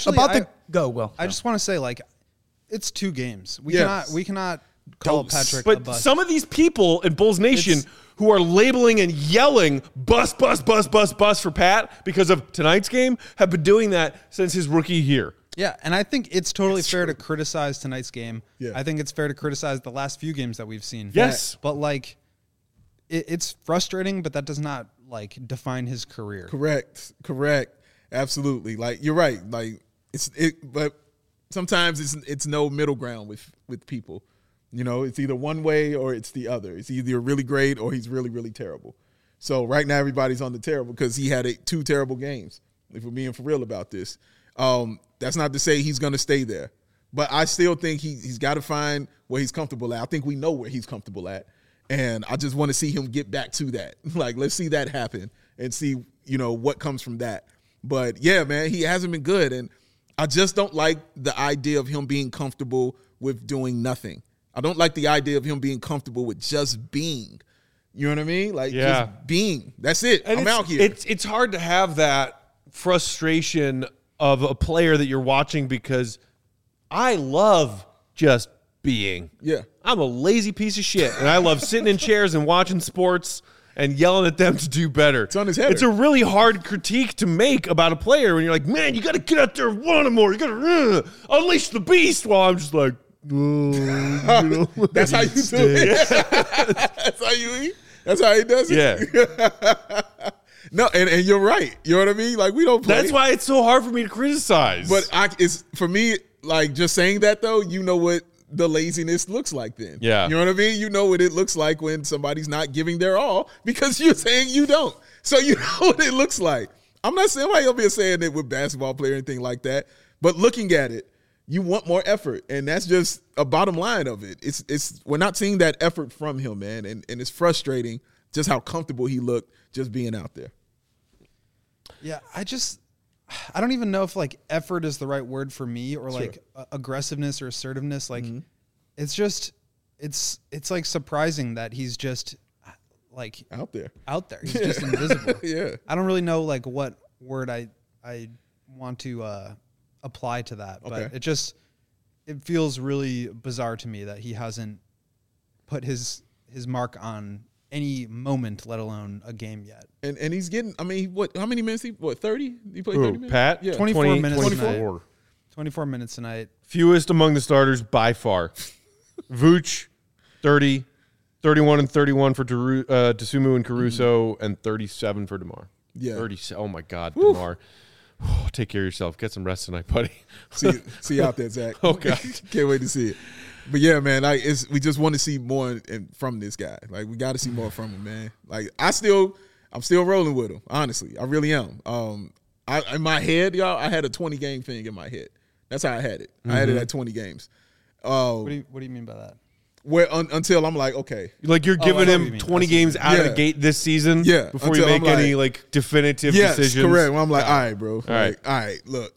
Go, Will. I Go. just want to say, like, it's 2 games. We Yes. cannot call Patrick a But bust. some of these people in Bulls Nation who are labeling and yelling bust for Pat because of tonight's game have been doing that since his rookie year. Yeah, and I think it's totally fair to criticize tonight's game. Yeah. I think it's fair to criticize the last few games that we've seen. Yes. But, like, it's frustrating, but that does not, like, define his career. Correct. Absolutely. Like, you're right. Like, but sometimes it's no middle ground with people. It's either one way or it's the other. It's either really great or he's really, really terrible. So right now everybody's on the terrible because he had 2 terrible games, if we're being for real about this. That's not to say he's going to stay there. But I still think he's got to find where he's comfortable at. I think we know where he's comfortable at. And I just want to see him get back to that. Like, let's see that happen and see, what comes from that. But, yeah, man, he hasn't been good. And I just don't like the idea of him being comfortable with doing nothing. I don't like the idea of him being comfortable with just being. You know what I mean? Like, just being. That's it. And I'm out here. It's hard to have that frustration of a player that you're watching because I love just being. Yeah. I'm a lazy piece of shit, and I love sitting in chairs and watching sports and yelling at them to do better. It's on his header. It's a really hard critique to make about a player when you're like, man, you got to get out there and want him more. You got to unleash the beast. While I'm just like, That's how you do it. That's how he does it. Yeah. No, and you're right. You know what I mean? Like, we don't play. That's why it's so hard for me to criticize. But it's for me, like, just saying that, though, you know what the laziness looks like then. Yeah. You know what I mean? You know what it looks like when somebody's not giving their all because you're saying you don't. So you know what it looks like. I'm not saying why you'll be saying it with basketball player or anything like that, but looking at it, you want more effort, and that's just a bottom line of it. It's we're not seeing that effort from him, man, and it's frustrating just how comfortable he looked just being out there. Yeah, I don't even know if like effort is the right word for me or like aggressiveness or assertiveness. Like it's just it's like surprising that he's just like out there. He's just invisible. Yeah. I don't really know like what word I want to apply to that, but it feels really bizarre to me that he hasn't put his mark on any moment, let alone a game yet. And he's getting, I mean, how many minutes 30? He played 30 minutes? Pat? Yeah. 24 minutes 24. 24 minutes tonight. Fewest among the starters by far. Vooch, 30, 31 and 31 for Dosunmu and Caruso, and 37 for DeMar. Yeah. 30. Oh, my God, DeMar. Take care of yourself. Get some rest tonight, buddy. See you out there, Zach. Oh, God. Can't wait to see it. But yeah, man, we just want to see more from this guy. Like, we got to see more from him, man. Like, I'm still rolling with him. Honestly, I really am. In my head, y'all, I had a 20-game thing in my head. That's how I had it. I had it at 20 games. What do you mean by that? Where until I'm like, okay, Like you're giving him 20 games out of the gate this season before you make any like definitive decisions. Correct. Well, I'm like, all right, bro. All right, look.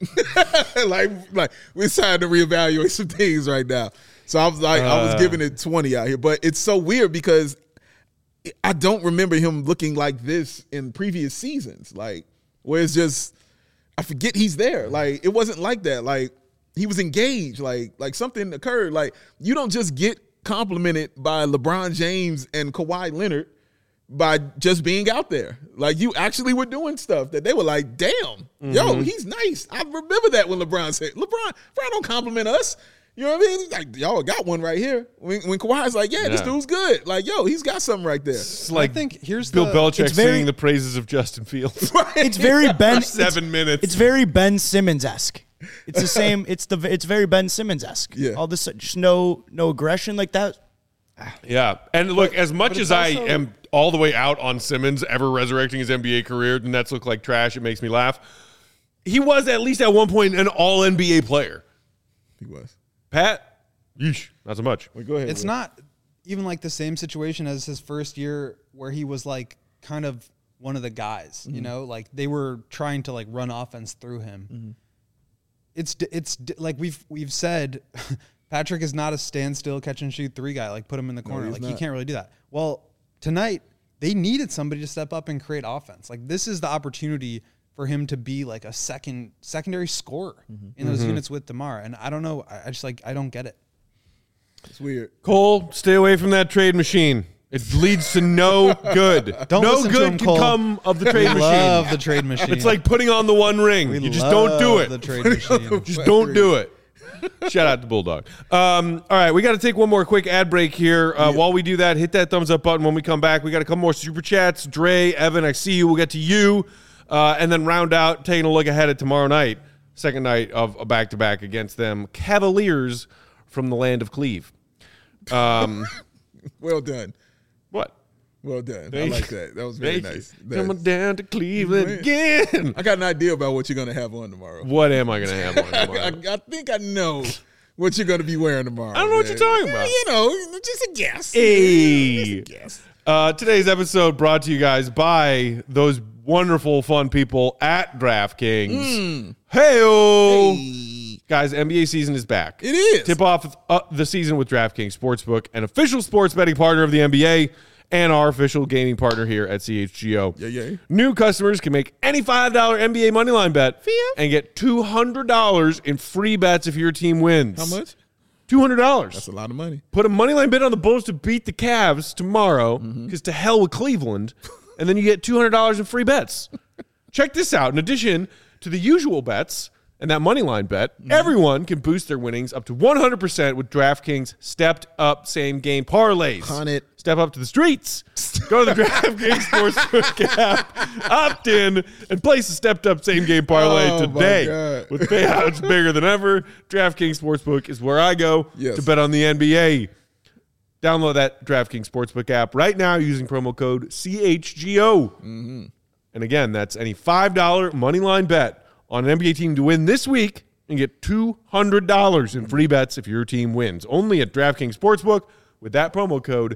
like we're trying to reevaluate some things right now. So I was like, I was giving it 20 out here. But it's so weird because I don't remember him looking like this in previous seasons. Like, where it's just, I forget he's there. Like, it wasn't like that. Like, he was engaged. Like something occurred. Like, you don't just get complimented by LeBron James and Kawhi Leonard by just being out there. Like, you actually were doing stuff that they were like, damn, yo, he's nice. I remember that when LeBron said, LeBron don't compliment us. You know what I mean? Like, y'all got one right here. When Kawhi's like, this dude's good. Like, yo, he's got something right there. It's like I think here's Bill Belichick singing the praises of Justin Fields. It's very Ben. 7 minutes. It's very Ben Simmons-esque. It's the same. It's very Ben Simmons-esque. Yeah. All this, just no aggression like that. Yeah. And look, as much as I am all the way out on Simmons ever resurrecting his NBA career, the Nets look like trash. It makes me laugh. He was at least at one point an all-NBA player. He was. Pat? Yeesh. Not so much. Well, go ahead. It's not even like the same situation as his first year where he was like kind of one of the guys, you know, like they were trying to like run offense through him. It's like we've said, Patrick is not a standstill catch and shoot three guy. Like put him in the corner. he's Like not. he can't really do that. Well, tonight they needed somebody to step up and create offense. Like this is the opportunity for him to be like a secondary scorer in those units with DeMar. And I don't know. I don't get it. It's weird. Cole, stay away from that trade machine. It leads to no good. Don't no listen to good him, can Cole. come of the trade machine. Love the trade machine. It's like putting on the One Ring. You just don't do it. The trade machine. Just don't do it. Shout out to Bulldog. All right, we got to take one more quick ad break here. While we do that, hit that thumbs up button. When we come back, we got a couple more super chats. Dre, Evan, I see you. We'll get to you. And then round out, taking a look ahead at tomorrow night, second night of a back-to-back against them Cavaliers from the land of Cleve. Well done. What? Well done. I Thank like you. that. That was very Thank nice. you. Coming down to Cleveland again. I got an idea about what you're going to have on tomorrow. What am I going to have on tomorrow? I think I know what you're going to be wearing tomorrow. I don't know what man. you're talking about. You know, just a guess. Hey. Just a guess. Today's episode brought to you guys by those wonderful, fun people at DraftKings. Hey-o. Guys, NBA season is back. It is. Tip off the season with DraftKings Sportsbook, an official sports betting partner of the NBA and our official gaming partner here at CHGO. Yeah. New customers can make any $5 NBA moneyline bet and get $200 in free bets if your team wins. How much? $200. That's a lot of money. Put a moneyline bet on the Bulls to beat the Cavs tomorrow, because to hell with Cleveland, and then you get $200 in free bets. Check this out. In addition to the usual bets and that moneyline bet, everyone can boost their winnings up to 100% with DraftKings stepped-up same-game parlays. 100%. step up to the streets. Go to the DraftKings Sportsbook app, opt in, and place a stepped-up same-game parlay today. With payouts bigger than ever, DraftKings Sportsbook is where I go to bet on the NBA. Download that DraftKings Sportsbook app right now using promo code CHGO. Mm-hmm. And again, that's any $5 moneyline bet on an NBA team to win this week and get $200 in free bets if your team wins. Only at DraftKings Sportsbook with that promo code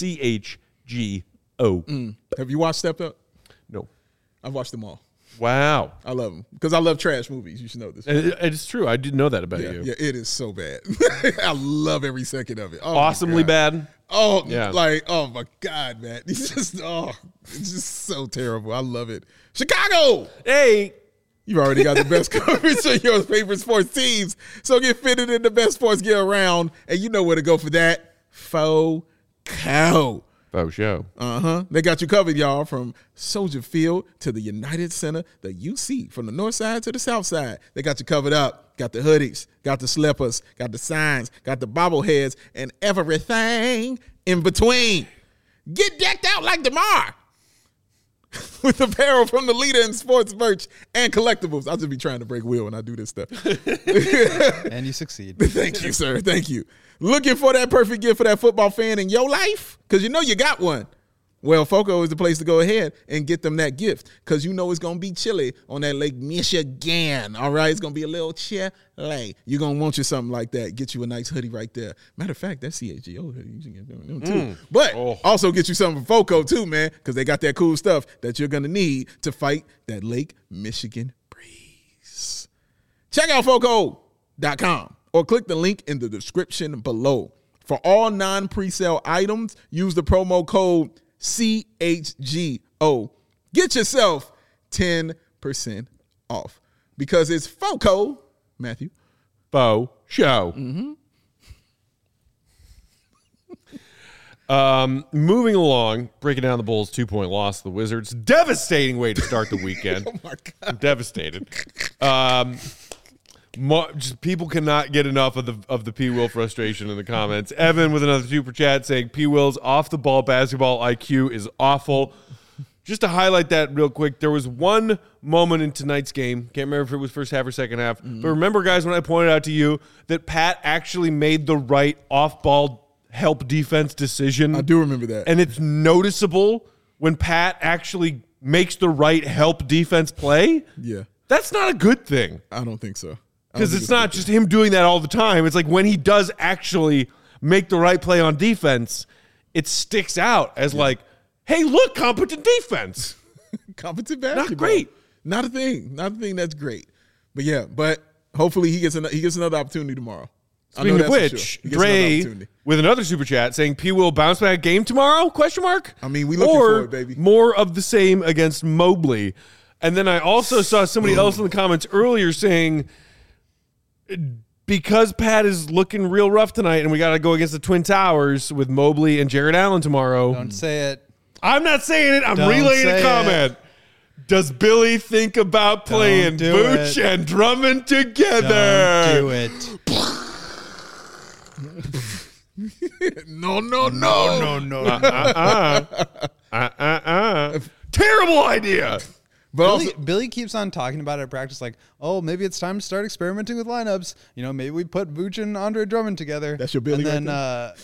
CHGO. Have you watched Stepped Up? No. I've watched them all. Wow. I love them because I love trash movies. You should know this. It's true. I didn't know that about you. Yeah, it is so bad. I love every second of it. Oh, awesomely bad. Oh, yeah. Like, oh my God, man. It's just so terrible. I love it. Chicago. Hey. You've already got the best coverage of your favorite sports teams. So get fitted in the best sports gear around. And you know where to go for that. Faux Cow. Faux show. They got you covered, y'all, from Soldier Field to the United Center, the UC, from the north side to the south side. They got you covered up. Got the hoodies, got the slippers, got the signs, got the bobbleheads, and everything in between. Get decked out like DeMar with apparel from the leader in sports merch and collectibles. I'll just be trying to break Will when I do this stuff. And you succeed. Thank you, sir. Thank you. Looking for that perfect gift for that football fan in your life? Because you know you got one. Well, FOCO is the place to go ahead and get them that gift because you know it's going to be chilly on that Lake Michigan, all right? It's going to be a little chilly. You're going to want you something like that. Get you a nice hoodie right there. Matter of fact, that's CHGO hoodie. You should get them too. But also get you something from FOCO too, man, because they got that cool stuff that you're going to need to fight that Lake Michigan breeze. Check out FOCO.com or click the link in the description below. For all non-presale items, use the promo code CHGO. Get yourself 10% off because it's FOCO, Matthew. Faux show. Moving along, breaking down the Bulls' 2-point loss to the Wizards. Devastating way to start the weekend. Oh, my God. I'm devastated. Just people cannot get enough of the P. Will frustration in the comments. Evan with another super chat saying P. Will's off the ball basketball IQ is awful. Just to highlight that real quick, there was one moment in tonight's game. Can't remember if it was first half or second half. But remember, guys, when I pointed out to you that Pat actually made the right off-ball help defense decision. I do remember that. And it's noticeable when Pat actually makes the right help defense play. Yeah. That's not a good thing. I don't think so. Because it's not just him doing that all the time. It's like when he does actually make the right play on defense, it sticks out as like, hey, look, competent defense. Competent basketball. Not great. Not a thing. Not a thing that's great. But yeah, hopefully he gets another opportunity tomorrow. Speaking of which, Dre with another super chat saying P will bounce back game tomorrow? ? I mean, we looking for it, baby. More of the same against Mobley. And then I also saw somebody else in the comments earlier saying because Pat is looking real rough tonight and we got to go against the Twin Towers with Mobley and Jared Allen tomorrow. Don't say it. I'm not saying it. I'm Don't relaying a say comment. Does Billy think about playing Vooch and Drummond together? Don't do it. No. Terrible idea. But Billy keeps on talking about it at practice like, oh, maybe it's time to start experimenting with lineups. You know, maybe we put Vooch and Andre Drummond together. That's your Billy and right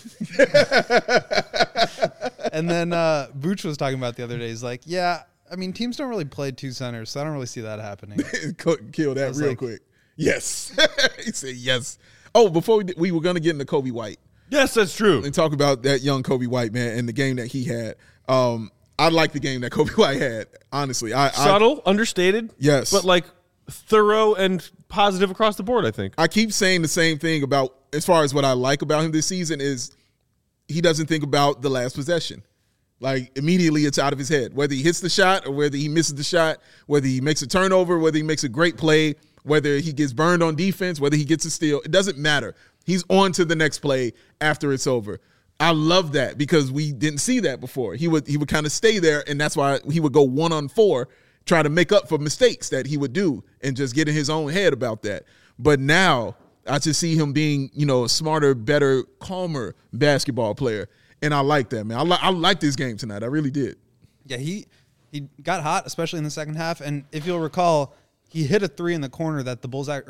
then Vooch was talking about the other day. He's like, yeah, I mean, teams don't really play two centers, so I don't really see that happening. Kill that real quick. Yes. He said yes. Oh, before we were going to get into Kobe White. Yes, that's true. And talk about that young Kobe White, man, and the game that he had. I like the game that Kobe White had, honestly. Subtle, understated. Yes. But like thorough and positive across the board, I think. I keep saying the same thing about, as far as what I like about him this season is he doesn't think about the last possession. Like immediately it's out of his head, whether he hits the shot or whether he misses the shot, whether he makes a turnover, whether he makes a great play, whether he gets burned on defense, whether he gets a steal. It doesn't matter. He's on to the next play after it's over. I love that because we didn't see that before. He would kind of stay there, and that's why he would go 1-on-4, try to make up for mistakes that he would do and just get in his own head about that. But now I just see him being, a smarter, better, calmer basketball player. And I like that, man. I like this game tonight. I really did. Yeah, he got hot, especially in the second half. And if you'll recall, he hit a 3 in the corner that the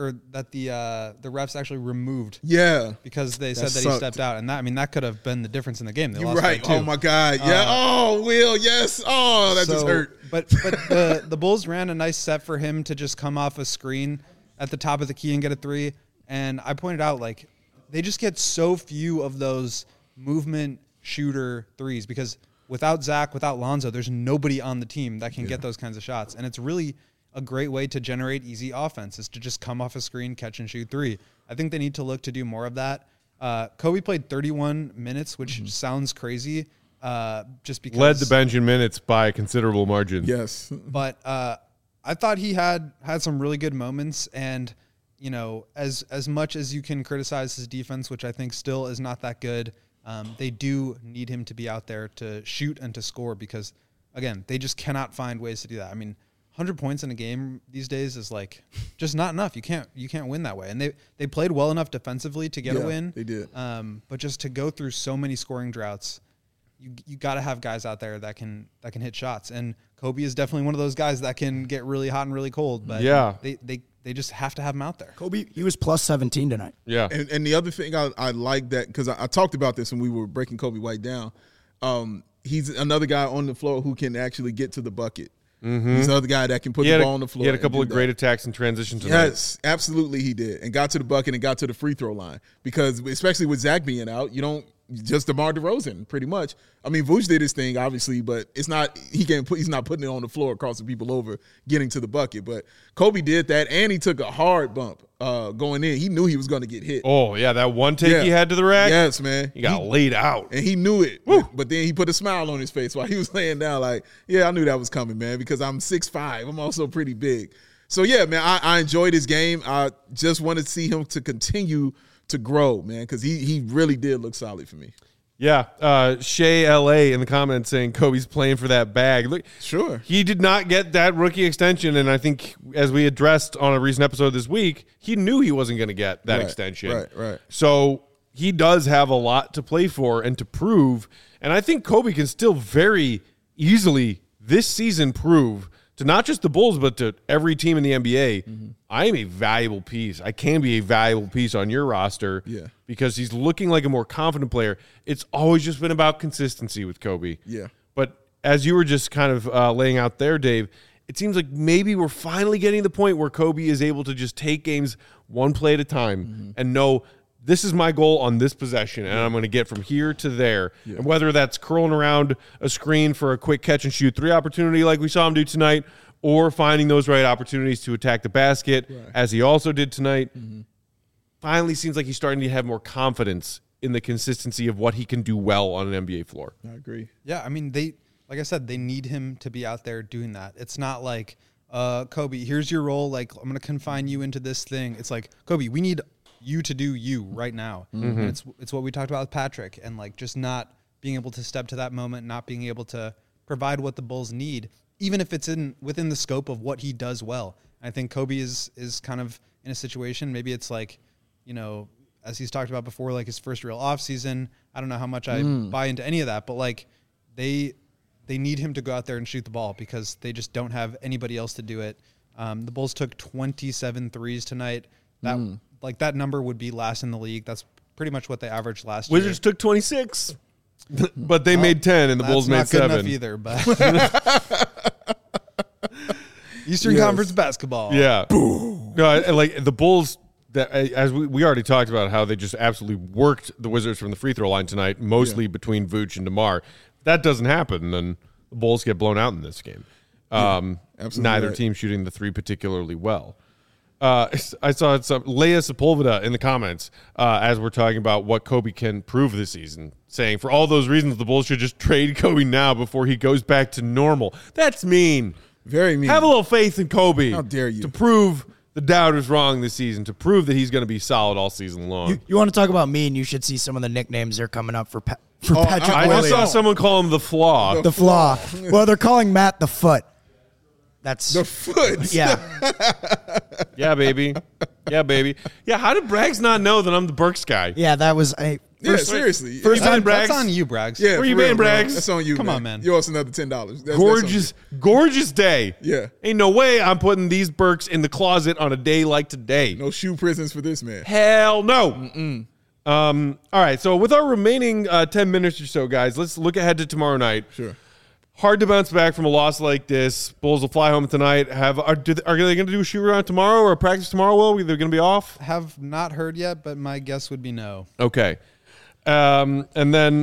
refs actually removed. Yeah, because they said that sucked. he stepped out, and that could have been the difference in the game. They you're lost right. by 2. Oh my God. Yeah. Will. Yes. Oh, that just hurt. But the Bulls ran a nice set for him to just come off a screen at the top of the key and get a 3. And I pointed out, like, they just get so few of those movement shooter threes because without Zach, without Lonzo, there's nobody on the team that can get those kinds of shots. And it's really a great way to generate easy offense is to just come off a screen, catch and shoot 3. I think they need to look to do more of that. Kobe played 31 minutes, which sounds crazy. Just because led the bench in minutes by a considerable margin. Yes. But I thought he had some really good moments, and you know, as much as you can criticize his defense, which I think still is not that good, they do need him to be out there to shoot and to score because, again, they just cannot find ways to do that. I mean, 100 points in a game these days is like just not enough. You can't win that way. And they played well enough defensively to get a win. They did. But just to go through so many scoring droughts, you got to have guys out there that can hit shots. And Kobe is definitely one of those guys that can get really hot and really cold. But yeah, they just have to have him out there. Kobe, he was plus 17 tonight. Yeah. And the other thing I like that because I talked about this when we were breaking Kobe White down. He's another guy on the floor who can actually get to the bucket. Mm-hmm. He's another guy that can put the ball on the floor. He had a couple of great attacks in transition tonight. Yes, absolutely he did. And got to the bucket and got to the free throw line. Because especially with Zach being out, you don't just DeMar DeRozan pretty much. I mean, Vooch did his thing, obviously, but it's not he's not putting it on the floor, crossing people over, getting to the bucket. But Kobe did that, and he took a hard bump going in. He knew he was going to get hit. Oh, yeah, that one take he had to the rack? Yes, man. He got laid out. And he knew it. But then he put a smile on his face while he was laying down like, yeah, I knew that was coming, man, because I'm 6'5". I'm also pretty big. So, yeah, man, I enjoyed his game. I just wanted to see him to continue to grow, man, because he really did look solid for me. Yeah, Shea LA in the comments saying Kobe's playing for that bag. Look, sure, he did not get that rookie extension, and I think as we addressed on a recent episode this week, he knew he wasn't going to get that extension. Right. So he does have a lot to play for and to prove, and I think Kobe can still very easily this season prove to not just the Bulls, but to every team in the NBA, I am a valuable piece. I can be a valuable piece on your roster because he's looking like a more confident player. It's always just been about consistency with Kobe. Yeah. But as you were just kind of laying out there, Dave, it seems like maybe we're finally getting to the point where Kobe is able to just take games one play at a time and know this is my goal on this possession, and I'm going to get from here to there. Yeah. And whether that's curling around a screen for a quick catch-and-shoot 3 opportunity like we saw him do tonight, or finding those right opportunities to attack the basket, as he also did tonight, finally seems like he's starting to have more confidence in the consistency of what he can do well on an NBA floor. I agree. Yeah, I mean, like I said, they need him to be out there doing that. It's not like, Kobe, here's your role. Like, I'm going to confine you into this thing. It's like, Kobe, we need you to do you right now. And it's what we talked about with Patrick, and like just not being able to step to that moment, not being able to provide what the Bulls need, even if it's within the scope of what he does well. I think Kobe is kind of in a situation, maybe it's like, you know, as he's talked about before, like his first real off season. I don't know how much I buy into any of that, but like they need him to go out there and shoot the ball because they just don't have anybody else to do it. The Bulls took 27 threes tonight. That number would be last in the league. That's pretty much what they averaged last year. Wizards took 26, but they made 10, and the Bulls made 7. That's not good enough either, but Eastern Conference basketball. Yeah. No, like the Bulls, as we already talked about how they just absolutely worked the Wizards from the free throw line tonight, mostly between Vooch and DeMar. That doesn't happen, then the Bulls get blown out in this game. Neither team shooting the 3 particularly well. I saw some Leia Sepulveda in the comments as we're talking about what Kobe can prove this season, saying for all those reasons the Bulls should just trade Kobe now before he goes back to normal. That's mean. Very mean. Have a little faith in Kobe. How dare you? To prove the doubters wrong this season, to prove that he's going to be solid all season long. You want to talk about mean, you should see some of the nicknames they're coming up for Patrick I Williams. just saw someone call him the Flaw. The Flaw. Well, they're calling Matt the Foot. That's the Foot. Yeah. Yeah, baby. Yeah, baby. Yeah, how did Braggs not know that I'm the Burks guy? Yeah, that was Yeah, seriously. First man, Braggs. That's on you, Braggs. Yeah, Where you for real, been, bro. Braggs? That's on you. Come man. on, man. You owe us another $10. Gorgeous day. Yeah. Ain't no way I'm putting these Birks in the closet on a day like today. No shoe prisons for this man. Hell no. All right, so with our remaining 10 minutes or so, guys, let's look ahead to tomorrow night. Sure. Hard to bounce back from a loss like this. Bulls will fly home tonight. Are they going to do a shoot around tomorrow or a practice tomorrow? Will they're going to be off? Have not heard yet, but my guess would be no. Okay, and then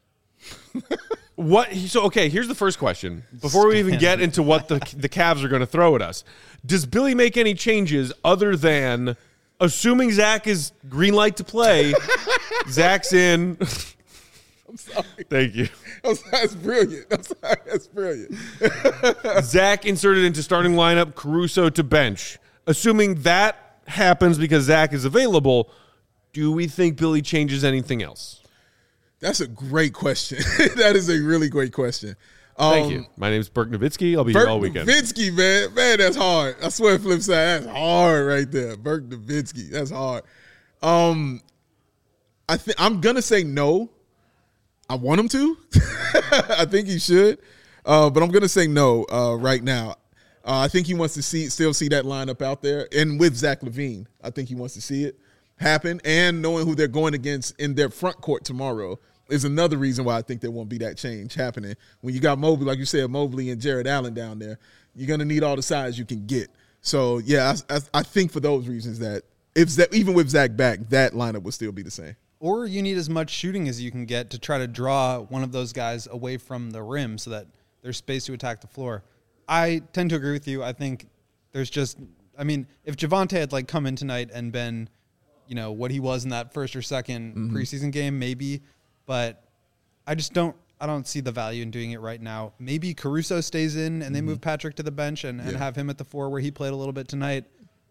what? So okay, here's the first question. Before we even get into what the Cavs are going to throw at us, does Billy make any changes other than assuming Zach is green light to play? Zach's in. I'm sorry. Thank you. I'm sorry. That's brilliant. I'm sorry. That's brilliant. Zach inserted into starting lineup, Caruso to bench. Assuming that happens because Zach is available, do we think Billy changes anything else? That's a great question. That is a really great question. Thank you. My name is Burke Nowitzki. I'll be here all weekend. Nowitzki, man. Man, that's hard. I swear, flip side, that's hard right there. Burke Nowitzki. That's hard. I'm going to say no. I want him to. I think he should. But I'm going to say no right now. I think he wants to still see that lineup out there. And with Zach LaVine, I think he wants to see it happen. And knowing who they're going against in their front court tomorrow is another reason why I think there won't be that change happening. When you got Mobley, like you said, Mobley and Jared Allen down there, you're going to need all the size you can get. So, yeah, I think for those reasons that even with Zach back, that lineup will still be the same. Or you need as much shooting as you can get to try to draw one of those guys away from the rim so that there's space to attack the floor. I tend to agree with you. I think there's just, I mean, if Javonte had come in tonight and been, what he was in that first or second preseason game, maybe, but I don't see the value in doing it right now. Maybe Caruso stays in and they move Patrick to the bench and have him at the 4 where he played a little bit tonight.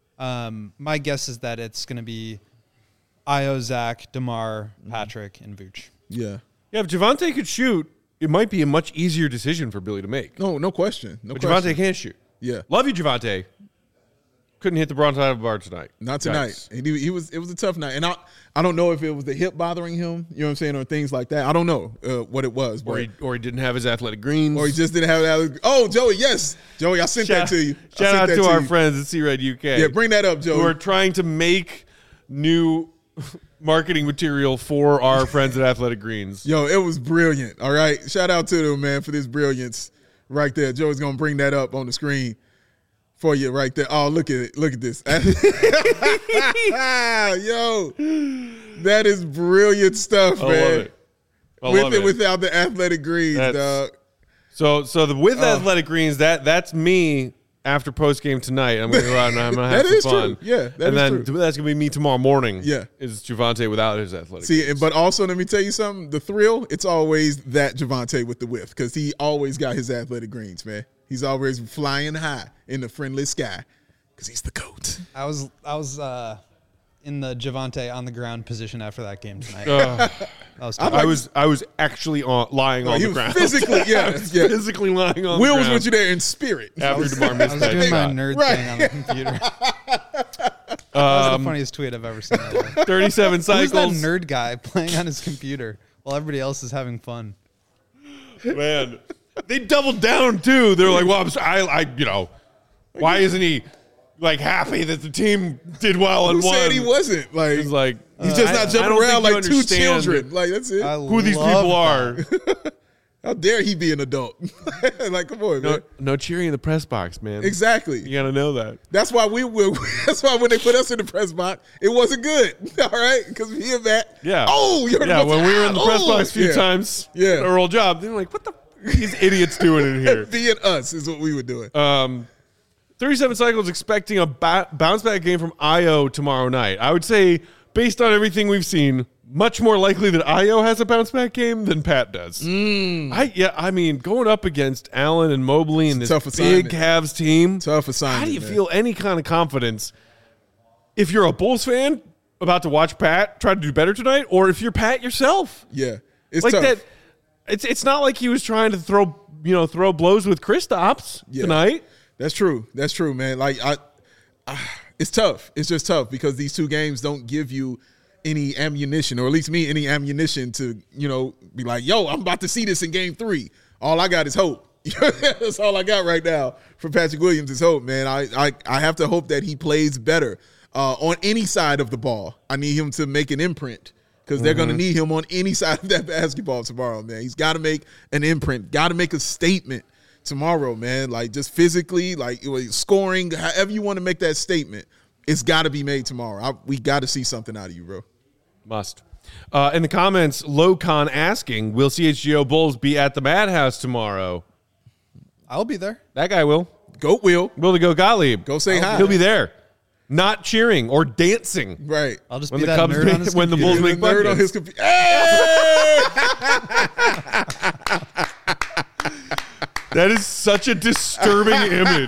My guess is that it's going to be Io, Zach, DeMar, Patrick, and Vooch. Yeah. Yeah, if Javonte could shoot, it might be a much easier decision for Billy to make. No question. But Javonte can't shoot. Yeah. Love you, Javonte. Couldn't hit the bronze side of the bar tonight. Not tonight. It was a tough night. And I don't know if it was the hip bothering him, you know what I'm saying, or things like that. I don't know what it was. But, or he didn't have his athletic greens. Or he just didn't have that. Oh, Joey, yes. Joey, I sent that to you. Shout out to our friends at C-Red UK. Yeah, bring that up, Joey. Who are trying to make new marketing material for our friends at Athletic Greens. Yo, it was brilliant. All right. Shout out to them, man, for this brilliance right there. Joey's going to bring that up on the screen for you right there. Oh, look at it. Look at this. Yo, that is brilliant stuff, man. With it without the Athletic Greens, dog. So with Athletic Greens, that's me after post game tonight. I'm going to go out and I'm going to have some fun. True. Yeah, that's going to be me tomorrow morning. Yeah, is Javonte without his Athletic Greens. But also let me tell you something. The thrill, it's always that Javonte with the whiff because he always got his Athletic Greens, man. He's always flying high in the friendly sky because he's the GOAT. I was in the Javonte on the ground position after that game tonight. I was actually lying on the ground. Physically, physically lying on the ground. Will was with you there in spirit. After DeMar missed I was doing my nerd thing on the computer. That was the funniest tweet I've ever seen. 37 cycles. Who's that nerd guy playing on his computer while everybody else is having fun? Man, they doubled down too. They're like, "Well, why isn't he happy that the team did well and won?" Who said he wasn't? He's like, he's just not jumping around like two children. Like that's it. Who these people are? How dare he be an adult? Come on, man. No cheering in the press box, man. Exactly. You gotta know that. That's why that's why when they put us in the press box, it wasn't good. All right, because we hear that. Yeah. Oh, you're when we were in the press box a few times. Yeah. Our old job. They're like, what the these idiots doing in here? Being us is what we were doing. 37 cycles expecting a bounce back game from Io tomorrow night. I would say, based on everything we've seen, much more likely that Io has a bounce back game than Pat does. I mean, going up against Allen and Mobley and this big Cavs team. Tough assignment. How do you feel any kind of confidence if you're a Bulls fan about to watch Pat try to do better tonight, or if you're Pat yourself? Yeah, it's like tough. that. It's not like he was trying to throw blows with Kristaps tonight. That's true. That's true, man. It's tough. It's just tough because these two games don't give you any ammunition, or at least me any ammunition to, be like, yo, I'm about to see this in game 3. All I got is hope. That's all I got right now for Patrick Williams is hope, man. I have to hope that he plays better on any side of the ball. I need him to make an imprint because they're going to need him on any side of that basketball tomorrow, man. He's got to make an imprint, got to make a statement tomorrow, man. Like just physically, like scoring, however you want to make that statement, it's got to be made tomorrow. We got to see something out of you, bro. Must. In the comments, Locon asking, will CHGO Bulls be at the Madhouse tomorrow? I'll be there. That guy will. Goat will. Will to go Gottlieb. Go say hi. He'll be there. Not cheering or dancing. Right. I'll just When be the that Cubs nerd on his when the computer. Bulls make Nerd on buckets. his computer. Hey! That is such a disturbing image.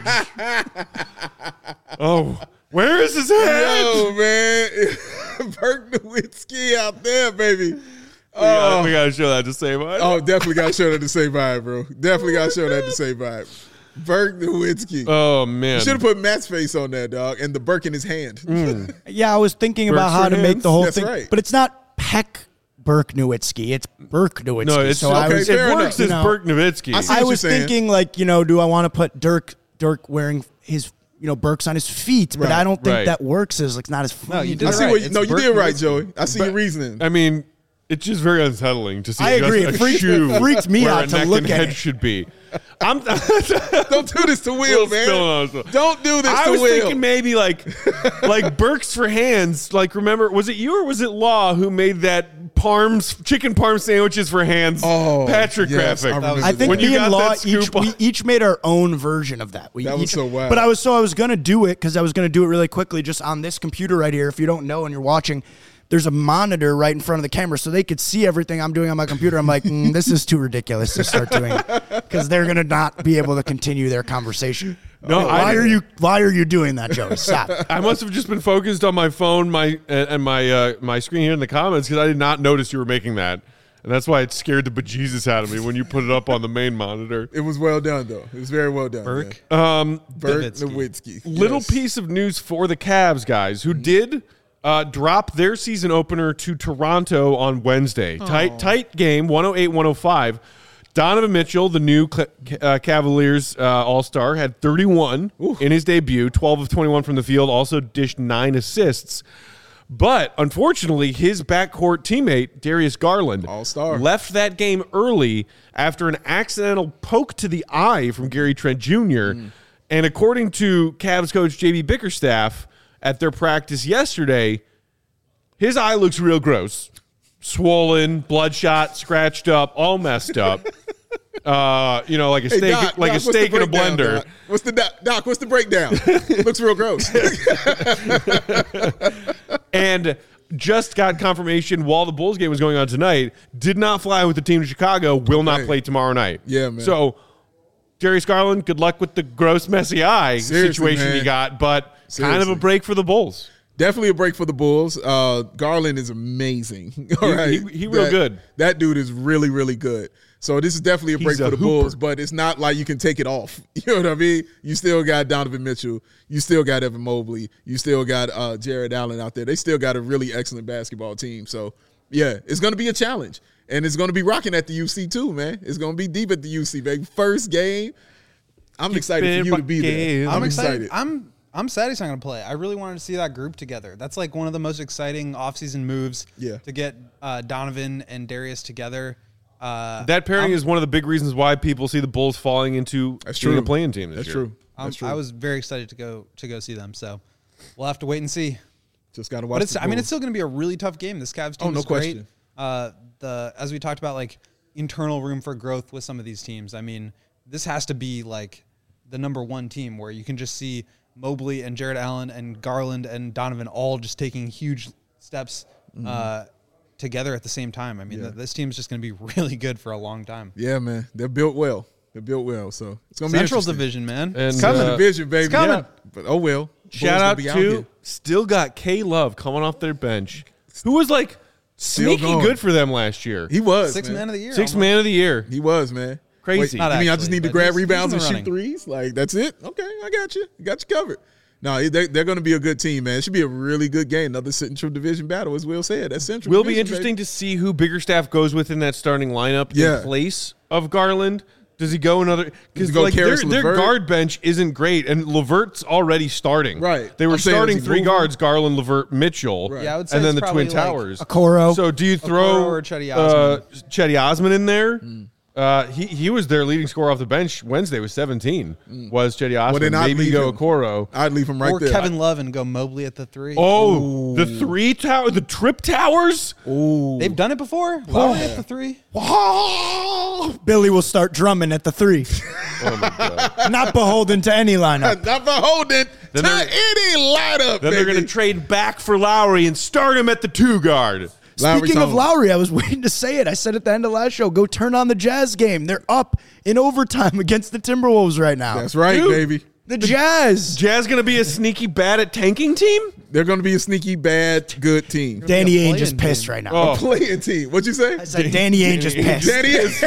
Oh, where is his head? Yo, man. Burke Nowitzki out there, baby. We gotta show that to save us. Oh, definitely got to show that to say vibe, bro. Definitely got to show that to say vibe. Burke Nowitzki. Oh, man. Should have put Matt's face on that, dog, and the Burke in his hand. Yeah, I was thinking about Burks how for to make hands? the whole That's thing, right. but it's not Peck Burke Nowitzki. It's Burke Nowitzki. No, it's so I okay, was, fair it works enough. as Burke Nowitzki. I see I what was you're saying. thinking like, do I want to put Dirk wearing his, Burks on his feet? But Right, I don't think right. that works as like not as fun. No, you did I it see right. what you It's no, you Burke did right, Nowitzki. Joey. I see your reasoning. I mean, it's just very unsettling to see I just agree. a It freaked- shoe freaked me where out a to neck look and at head it. should be. I'm Don't do this to Will, man. Don't do this I to was Will. thinking maybe like Burks for hands. Like, remember, was it you or was it Law who made that chicken parm sandwiches for hands Patrick yes, graphic? I remember I think When you me and got Law that scoop we each made our own version of that. That was so wild. But I was gonna do it because I was gonna do it really quickly just on this computer right here. If you don't know and you're watching, there's a monitor right in front of the camera so they could see everything I'm doing on my computer. I'm like, this is too ridiculous to start doing because they're gonna not be able to continue their conversation. No, why are you doing that, Joey? Stop. I must have just been focused on my phone, my screen here in the comments because I did not notice you were making that, and that's why it scared the bejesus out of me when you put it up on the main monitor. It was well done, though. It was very well done. Burke. man. Burke Nowitzki. Nowitzki. Little Yes. piece of news for the Cavs guys who did drop their season opener to Toronto on Wednesday. Tight game, 108-105. Donovan Mitchell, the new Cavaliers All-Star, had 31 in his debut, 12 of 21 from the field, also dished 9 assists. But unfortunately, his backcourt teammate, Darius Garland, All-Star. left that game early after an accidental poke to the eye from Gary Trent Jr. And according to Cavs coach J.B. Bickerstaff at their practice yesterday, his eye looks real gross. Swollen, bloodshot, scratched up, all messed up. Like a Hey, steak, Doc, like a what's the steak in a breakdown, blender. Doc? What's the Doc? What's the breakdown? Looks real gross. And just got confirmation while the Bulls game was going on tonight, did not fly with the team to Chicago, will not Okay. play tomorrow night. Yeah, man. So, Darius Garland, good luck with the gross, messy eye Seriously, situation man. you got, but kind of Seriously. a break for the Bulls. Definitely a break for the Bulls. Garland is amazing. All right, he real good. That dude is really, really good. So this is definitely a break He's a for the hooper. Bulls, but it's not like you can take it off. You know what I mean? You still got Donovan Mitchell. You still got Evan Mobley. You still got Jared Allen out there. They still got a really excellent basketball team. So, yeah, it's going to be a challenge. And it's going to be rocking at the UC too, man. It's going to be deep at the UC, baby. First game. I'm excited for you to be there. I'm excited. I'm sad he's not going to play. I really wanted to see that group together. That's like one of the most exciting offseason moves to get Donovan and Darius together. That pairing is one of the big reasons why people see the Bulls falling into being a playing team this That's year. true. That's true. I was very excited to go see them. So we'll have to wait and see. Just got to watch. But it's the it's Bulls. still going to be a really tough game. This Cavs team no is great. question. As we talked about, like internal room for growth with some of these teams. I mean, this has to be like the number one team where you can just see Mobley and Jared Allen and Garland and Donovan all just taking huge steps together at the same time. I mean, this team's just going to be really good for a long time. Yeah, man. They're built well. So it's going to be Central interesting. Division, man. And, It's coming. Division, baby. It's coming. Yeah. But oh well. Shout Bulls out gonna be to here. still got K Love coming off their bench, who was like sneaky going. good for them last year. He was Sixth man of the year. Sixth almost. man of the year. He was, man. Crazy. Wait, Not I mean, I just actually, need to but grab he's rebounds in and the shoot running. threes. Like that's it. Okay, I got you. Got you covered. No, they're going to be a good team, man. It should be a really good game. Another Central Division battle, as Will said. That's Central Will Division, be interesting baby. to see who Biggerstaff goes with in that starting lineup Yeah. in place of Garland. Does he go another? Because go like their Karis LeVert? guard bench isn't great, and Levert's already starting. Right. They were I'm saying, starting is he 3 moving? guards: Garland, Levert, Mitchell. Right. Yeah, I would say and then it's the Twin probably like Towers. Okoro. So do you throw or Chetty Osman. Chetty Osman in there? He was their leading scorer off the bench Wednesday with 17. Was Chetty Osman? then I'd Maybe leave go him. Okoro. I'd leave him right or there. Kevin Love and go Mobley at the 3. Oh, the the trip towers. They've done it before. Lowry at the 3. Billy will start drumming at the 3. Oh my god. Not beholden to any lineup. Not beholden to they're- any lineup, Then they're going to trade back for Lowry and start him at the 2 guard. Speaking of Lowry, I was waiting to say it. I said at the end of last show, go turn on the Jazz game. They're up in overtime against the Timberwolves right now. That's right, Dude. baby. The Jazz. Jazz going to be a sneaky bad at tanking team? They're going to be a sneaky, bad, good team. Danny be a Ainge is play-in pissed team. right now. Oh. Playing team. What'd you say? I said Danny Ainge is pissed. Danny is.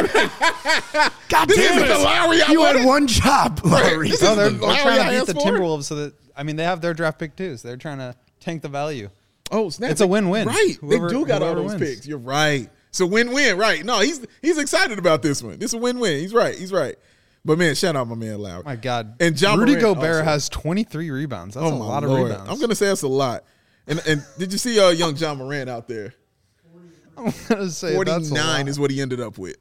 God This damn isn't the it. Lowry I You had wanted. one job, Lowry. This No, is they're the Lowry trying I to beat asked the for. Timberwolves so that they have their draft pick too. So they're trying to tank the value. Oh, snap. It's a win-win. Right. Whoever- they do got all whoever those wins. picks. You're right. It's a win-win. Right. No, he's excited about this one. This is a win-win. He's right. But, man, shout out my man Lowry. My God. And Ja Rudy Morant Gobert also. has 23 rebounds. That's a my lot of Lord. rebounds. I'm going to say that's a lot. And did you see young John Morant out there? I'm gonna say that's a 49 lot. is what he ended up with.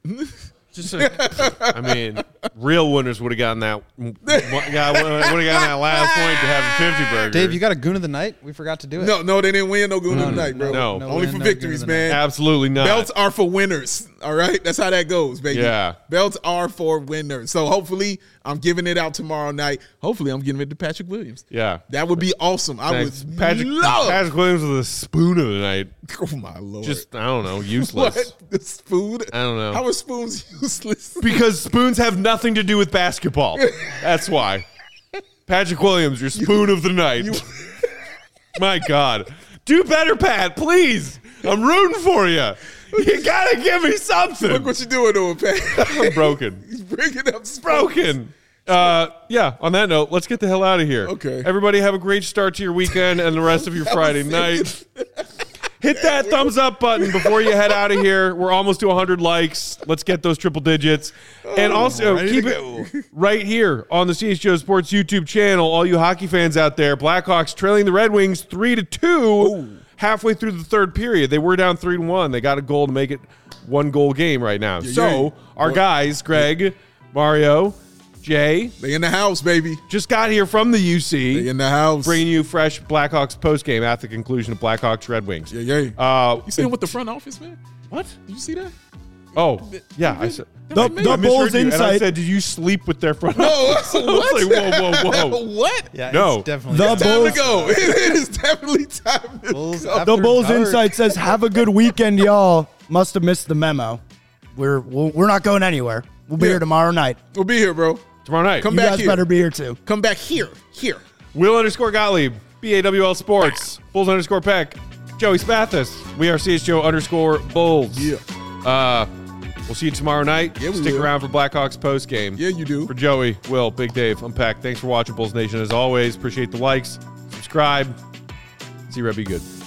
I mean, real winners would have gotten that. Would have gotten that last point to have a 50 burger. Dave, you got a goon of the night? We forgot to do it. No, they didn't win no good tonight, bro. no. Only win, for no victories, good tonight. man. Absolutely not. Belts are for winners. All right, that's how that goes, baby. Yeah. Belts are for winners. So hopefully, I'm giving it out tomorrow night. Hopefully, I'm giving it to Patrick Williams. Yeah. That would be awesome. I Thanks. would Patrick Williams with a spoon of the night. Oh my Lord! Just, I don't know, useless. what the spoon? I don't know. How are spoons useless? Because spoons have nothing to do with basketball. That's why. Patrick Williams, your spoon of the night. My God. Do better, Pat, please. I'm rooting for you. You got to give me something. Look what you're doing to him, Pat. I'm broken. He's bringing up spoons. Broken. Yeah, on that note, let's get the hell out of here. Okay. Everybody have a great start to your weekend and the rest of your Friday night. Hit that thumbs up button before you head out of here. We're almost to 100 likes. Let's get those triple digits. And also, ready keep to it right here on the CHGO Sports YouTube channel. All you hockey fans out there, Blackhawks trailing the Red Wings 3-2 halfway through the third period. They were down 3-1. They got a goal to make it 1-goal game right now. So our guys, Greg, Mario, Jay, They in the house, baby. just got here from the They UC, in the house. bringing you fresh Blackhawks postgame at the conclusion of Blackhawks Red Wings. Yeah. You see him with the front office, man? What? Did you see that? Oh, yeah. I said The I Bulls misheard you, and I insight. said, did you sleep with their front? No, office? I was like, whoa. what? Yeah, No. it's definitely The Time Bulls- to go. It is definitely time to Bulls go. after The Bulls dark. Insight says, "Have a good weekend, y'all." Must have missed the memo. We're not going anywhere. We'll be Yeah. here tomorrow night. We'll be here, bro. Tomorrow night. Come You back guys here. better be here too. Come back here. Here. Will_Gottlieb, BAWL Sports, Bulls_Peck, Joey Spathis. We are CHGO_Bulls. Yeah. We'll see you tomorrow night. Yeah, we Stick will. around for Blackhawks post game. Yeah, you do. For Joey, Will, Big Dave, I'm Peck. Thanks for watching Bulls Nation as always. Appreciate the likes. Subscribe. See you, Red. Be good.